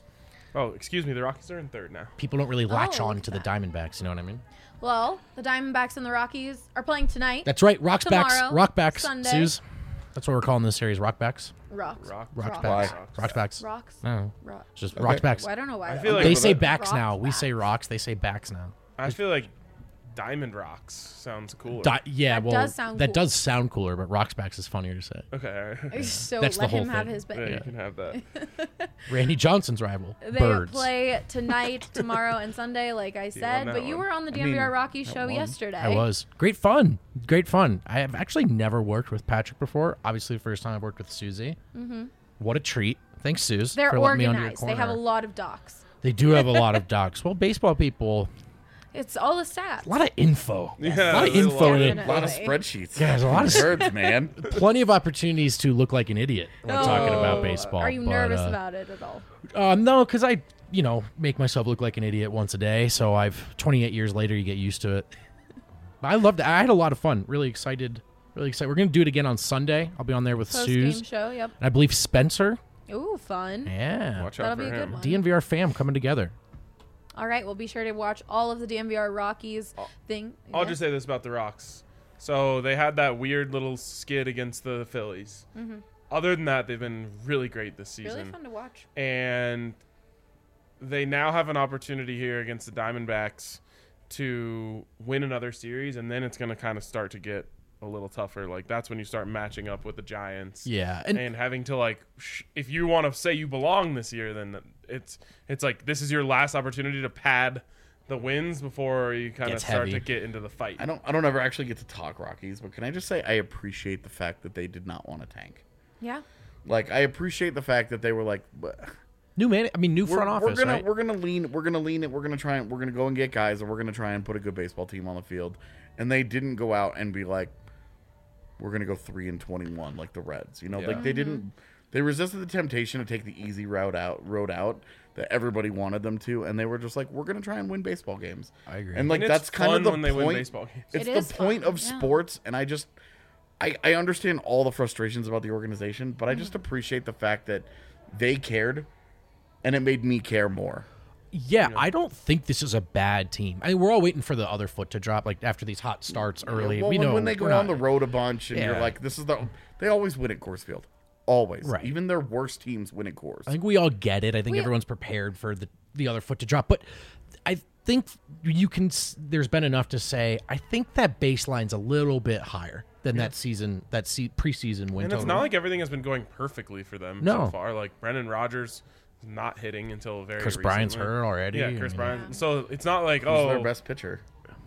H: Oh, excuse me. The Rockies are in third now.
E: People don't really latch
F: Oh,
E: on
F: look
E: to
F: at
E: the Diamondbacks. You know what I mean?
F: Well, the Diamondbacks and the Rockies are playing tonight.
E: That's right. Rockbacks.
F: Tomorrow,
E: Rockbacks.
F: Sunday.
E: Suze. That's what we're calling this series. Rockbacks.
F: Rocks.
H: Rock.
E: Rockbacks.
G: Why?
E: Rockbacks.
F: Rocks.
E: No.
F: Rocks.
E: It's just
G: Okay.
E: Rockbacks.
F: Well, I don't know why.
H: I feel like-
E: They say
H: Rock
E: backs now. We
F: backs.
E: say rocks. They say backs now.
H: I feel like Diamond Rocks sounds cooler.
E: Di- yeah,
F: That
E: well,
F: does sound
E: that
F: cool.
E: does sound cooler, but Rocksbacks is funnier to say.
H: Okay. all right.
F: So
E: That's the
F: let
E: whole
F: him have
E: thing.
F: his
H: Yeah,
F: bet.
H: you can have that.
E: Randy Johnson's rival.
F: They
E: Birds.
F: play tonight, tomorrow, and Sunday, like I said.
H: that
F: But you
H: one.
F: were on the
G: I
F: D M V R
G: mean,
F: Rockies
G: that
F: show
G: one.
F: yesterday.
E: I was. Great fun. Great fun. I have actually never worked with Patrick before. Obviously, the first time I've worked with Susie. Mm-hmm. What a treat. Thanks, Suze,
F: They're
E: for letting me under your
F: organized. They
E: corner.
F: have a lot of docs.
E: They do have a lot of docs. Well, baseball people,
F: It's all the stats.
E: a lot of info.
H: Yeah,
E: a lot of
H: there's a
E: info.
H: lot
E: in
H: of
E: it.
F: Definitely.
G: A lot of spreadsheets.
E: Yeah, there's a lot of
G: birds, man.
E: Plenty of opportunities to look like an idiot when we're talking about baseball.
F: Are you
E: but,
F: nervous
E: uh,
F: about it at all?
E: Uh, no, because I, you know, make myself look like an idiot once a day. So I've twenty-eight years later, you get used to it. But I loved it. I had a lot of fun. Really excited. Really excited. We're gonna do it again on Sunday. I'll be on there with
F: Post
E: Suze
F: game show. Yep.
E: and I believe Spencer.
F: Ooh, fun.
E: Yeah,
H: Watch out
F: That'll
H: for
F: be a good
H: him.
F: one.
E: D N V R fam coming together.
F: All right. Well, be sure to watch all of the D M V R Rockies thing.
H: I'll
F: Yeah.
H: just say this about the Rocks. So they had that weird little skid against the Phillies.
F: Mm-hmm.
H: Other than that, they've been really great this season.
F: Really fun to watch.
H: And they now have an opportunity here against the Diamondbacks to win another series, and then it's going to kind of start to get a little tougher. Like, that's when you start matching up with the Giants.
E: Yeah,
H: And,
E: and
H: having to, like, sh- if you want to say you belong this year, then it's it's like this is your last opportunity to pad the wins before you kind of
E: Gets
H: start
E: heavy.
H: to get into the fight.
G: I don't I don't ever actually get to talk Rockies, but can I just say I appreciate the fact that they did not want to tank.
F: Yeah.
G: Like, I appreciate the fact that they were like, "But
E: new man. I mean, new
G: we're,
E: front office.
G: we're gonna
E: right?
G: we're gonna lean we're gonna lean it we're gonna try and we're gonna go and get guys and we're gonna try and put a good baseball team on the field, and they didn't go out and be like, we're gonna go three and twenty one like the Reds. You know,
H: Yeah.
G: like they didn't. They resisted the temptation to take the easy route out road out that everybody wanted them to, and they were just like, we're gonna try and win baseball games.
E: I agree.
G: And like
H: And it's
G: that's kind
H: fun
G: of the
H: when they
G: point.
H: win baseball games.
G: It's
F: It
G: the
F: is
G: point
F: fun,
G: of
F: yeah.
G: sports, and I just I, I understand all the frustrations about the organization, but I
F: Mm-hmm.
G: just appreciate the fact that they cared, and it made me care more.
E: Yeah, I don't think this is a bad team. I mean, we're all waiting for the other foot to drop, like after these hot starts early.
G: Well,
E: we
G: when,
E: know
G: when they go
E: we're
G: on
E: not-
G: the road a bunch, and you're
E: Yeah.
G: like, this is the they always win at Coors Field, always.
E: Right.
G: Even their worst teams win at Coors.
E: I think we all get it. I think
F: We-
E: everyone's prepared for the the other foot to drop, but I think you can. s- There's been enough to say. I think that baseline's a little bit higher than that season, that se- preseason win
H: And it's
E: total.
H: not like everything has been going perfectly for them
E: No.
H: so far. Like, Brendan Rodgers is not hitting until very
E: Chris
H: recently.
E: Bryant's hurt already.
H: Yeah, Chris
E: I mean,
H: Bryant. So it's not like,
G: Who's
H: oh,
G: their best pitcher?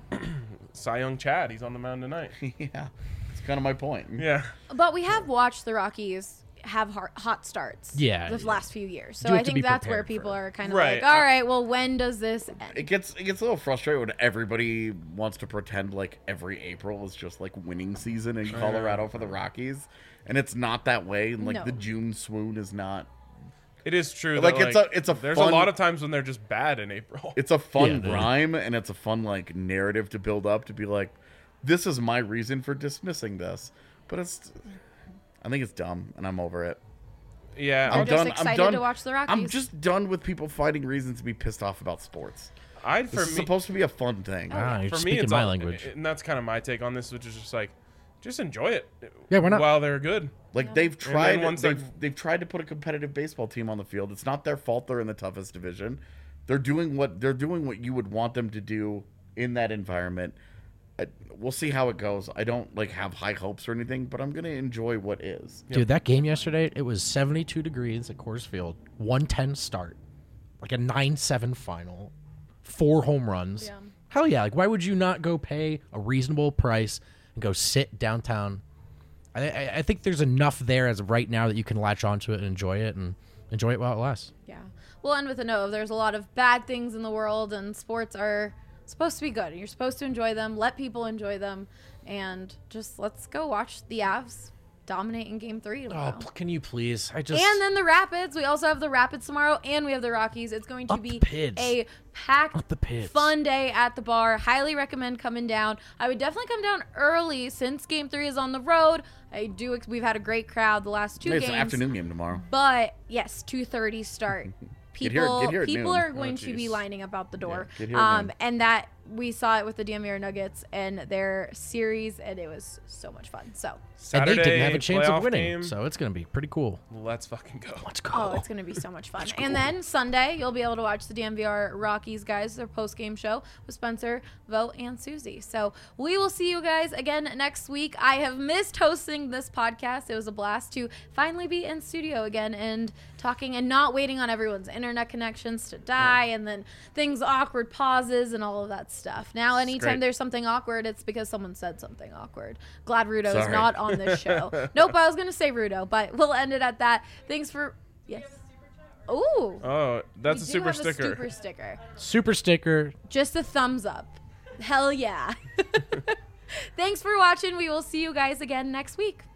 H: Cy Young Chad, he's on the mound tonight.
G: Yeah, it's kind of my point.
H: Yeah.
F: But we have watched the Rockies have hot, hot starts.
E: Yeah,
F: The
E: yeah.
F: last few years. So
E: You have
F: I
E: to
F: think
E: be
F: that's where
E: prepared
F: people
E: for it.
F: are kind of
H: Right.
F: like, all right, well, when does this end?
G: It gets it gets a little frustrating when everybody wants to pretend like every April is just like winning season in Colorado for the Rockies, and it's not that way. And like
F: No.
G: the June swoon is not.
H: It is true.
G: Like,
H: that,
G: it's a- it's a
H: There's
G: fun-
H: a lot of times when they're just bad in April.
G: It's a fun
E: Yeah,
G: rhyme, and it's a fun like narrative to build up to be like, this is my reason for dismissing this, but it's. I think it's dumb, and I'm over it.
H: yeah.
F: They're
G: I'm
F: just
G: done.
F: excited
G: I'm done.
F: to watch the
G: I'm
F: Rockies.
G: just done with people finding reasons to be pissed off about sports.
H: I
G: This
H: for
G: is
H: me,
G: supposed to be a fun thing.
E: Ah, you're
H: for me,
E: speaking
H: it's
E: my
H: all-
E: language.
H: and that's kind of my take on this, which is just like, just enjoy it.
E: Yeah, why not?
H: While they're good.
G: Like they've tried,
H: once
G: they've
H: they're-
G: they've tried to put a competitive baseball team on the field. It's not their fault they're in the toughest division. They're doing what they're doing what you would want them to do in that environment. I, we'll see how it goes. I don't like have high hopes or anything, but I'm gonna enjoy what is.
E: Dude, that game yesterday, it was seventy-two degrees at Coors Field, one ten start, like a nine seven final, four home runs.
F: Yeah.
E: Hell yeah. Like, why would you not go pay a reasonable price and go sit downtown? I, I, I think there's enough there as of right now that you can latch onto it and enjoy it and enjoy it while it lasts.
F: Yeah. We'll end with a note of there's a lot of bad things in the world, and sports are supposed to be good. And you're supposed to enjoy them, let people enjoy them, and just let's go watch the Avs dominate in game three
E: Oh,
F: tomorrow.
E: p- can you please? I just.
F: And then the Rapids. We also have the Rapids tomorrow, and we have the Rockies. It's going to
E: Up the
F: be
E: Pids.
F: a packed,
E: Up the Pids.
F: fun day at the bar. Highly recommend coming down. I would definitely come down early since Game Three is on the road. I do. Ex- we've had a great crowd the last two
G: It's
F: games.
G: an afternoon game tomorrow.
F: But yes, two thirty start.
G: Get here-
F: people
G: get here at
F: people
G: noon.
F: are going
H: Oh,
F: to be
H: jeez.
F: lining up out the door.
G: Yeah, get here at
F: um,
G: noon.
F: and that we saw it with the D M V R Nuggets and their series, and it was so much fun. So,
E: And
H: Saturday
E: they didn't have a chance
H: playoff
E: of winning,
H: game.
E: so it's going to be pretty cool.
H: Let's fucking go.
E: Let's go.
F: oh, it's going to be so much fun. And then Sunday, you'll be able to watch the D M V R Rockies guys, their post game show with Spencer, Vo, and Susie. So we will see you guys again next week. I have missed hosting this podcast. It was a blast to finally be in studio again and talking and not waiting on everyone's internet connections to die and then things awkward pauses and all of that stuff. Now, anytime
H: great.
F: there's something awkward, it's because someone said something awkward. Glad Rudo is
G: Sorry.
F: not on this show. Nope, I was going to say Rudo, but we'll end it at that. Thanks for... Yes. Ooh.
H: Oh, that's
F: we
H: a
F: do
H: super
F: have
H: sticker.
F: A super sticker.
E: Super sticker.
F: Just a thumbs up. Hell yeah. Thanks for watching. We will see you guys again next week.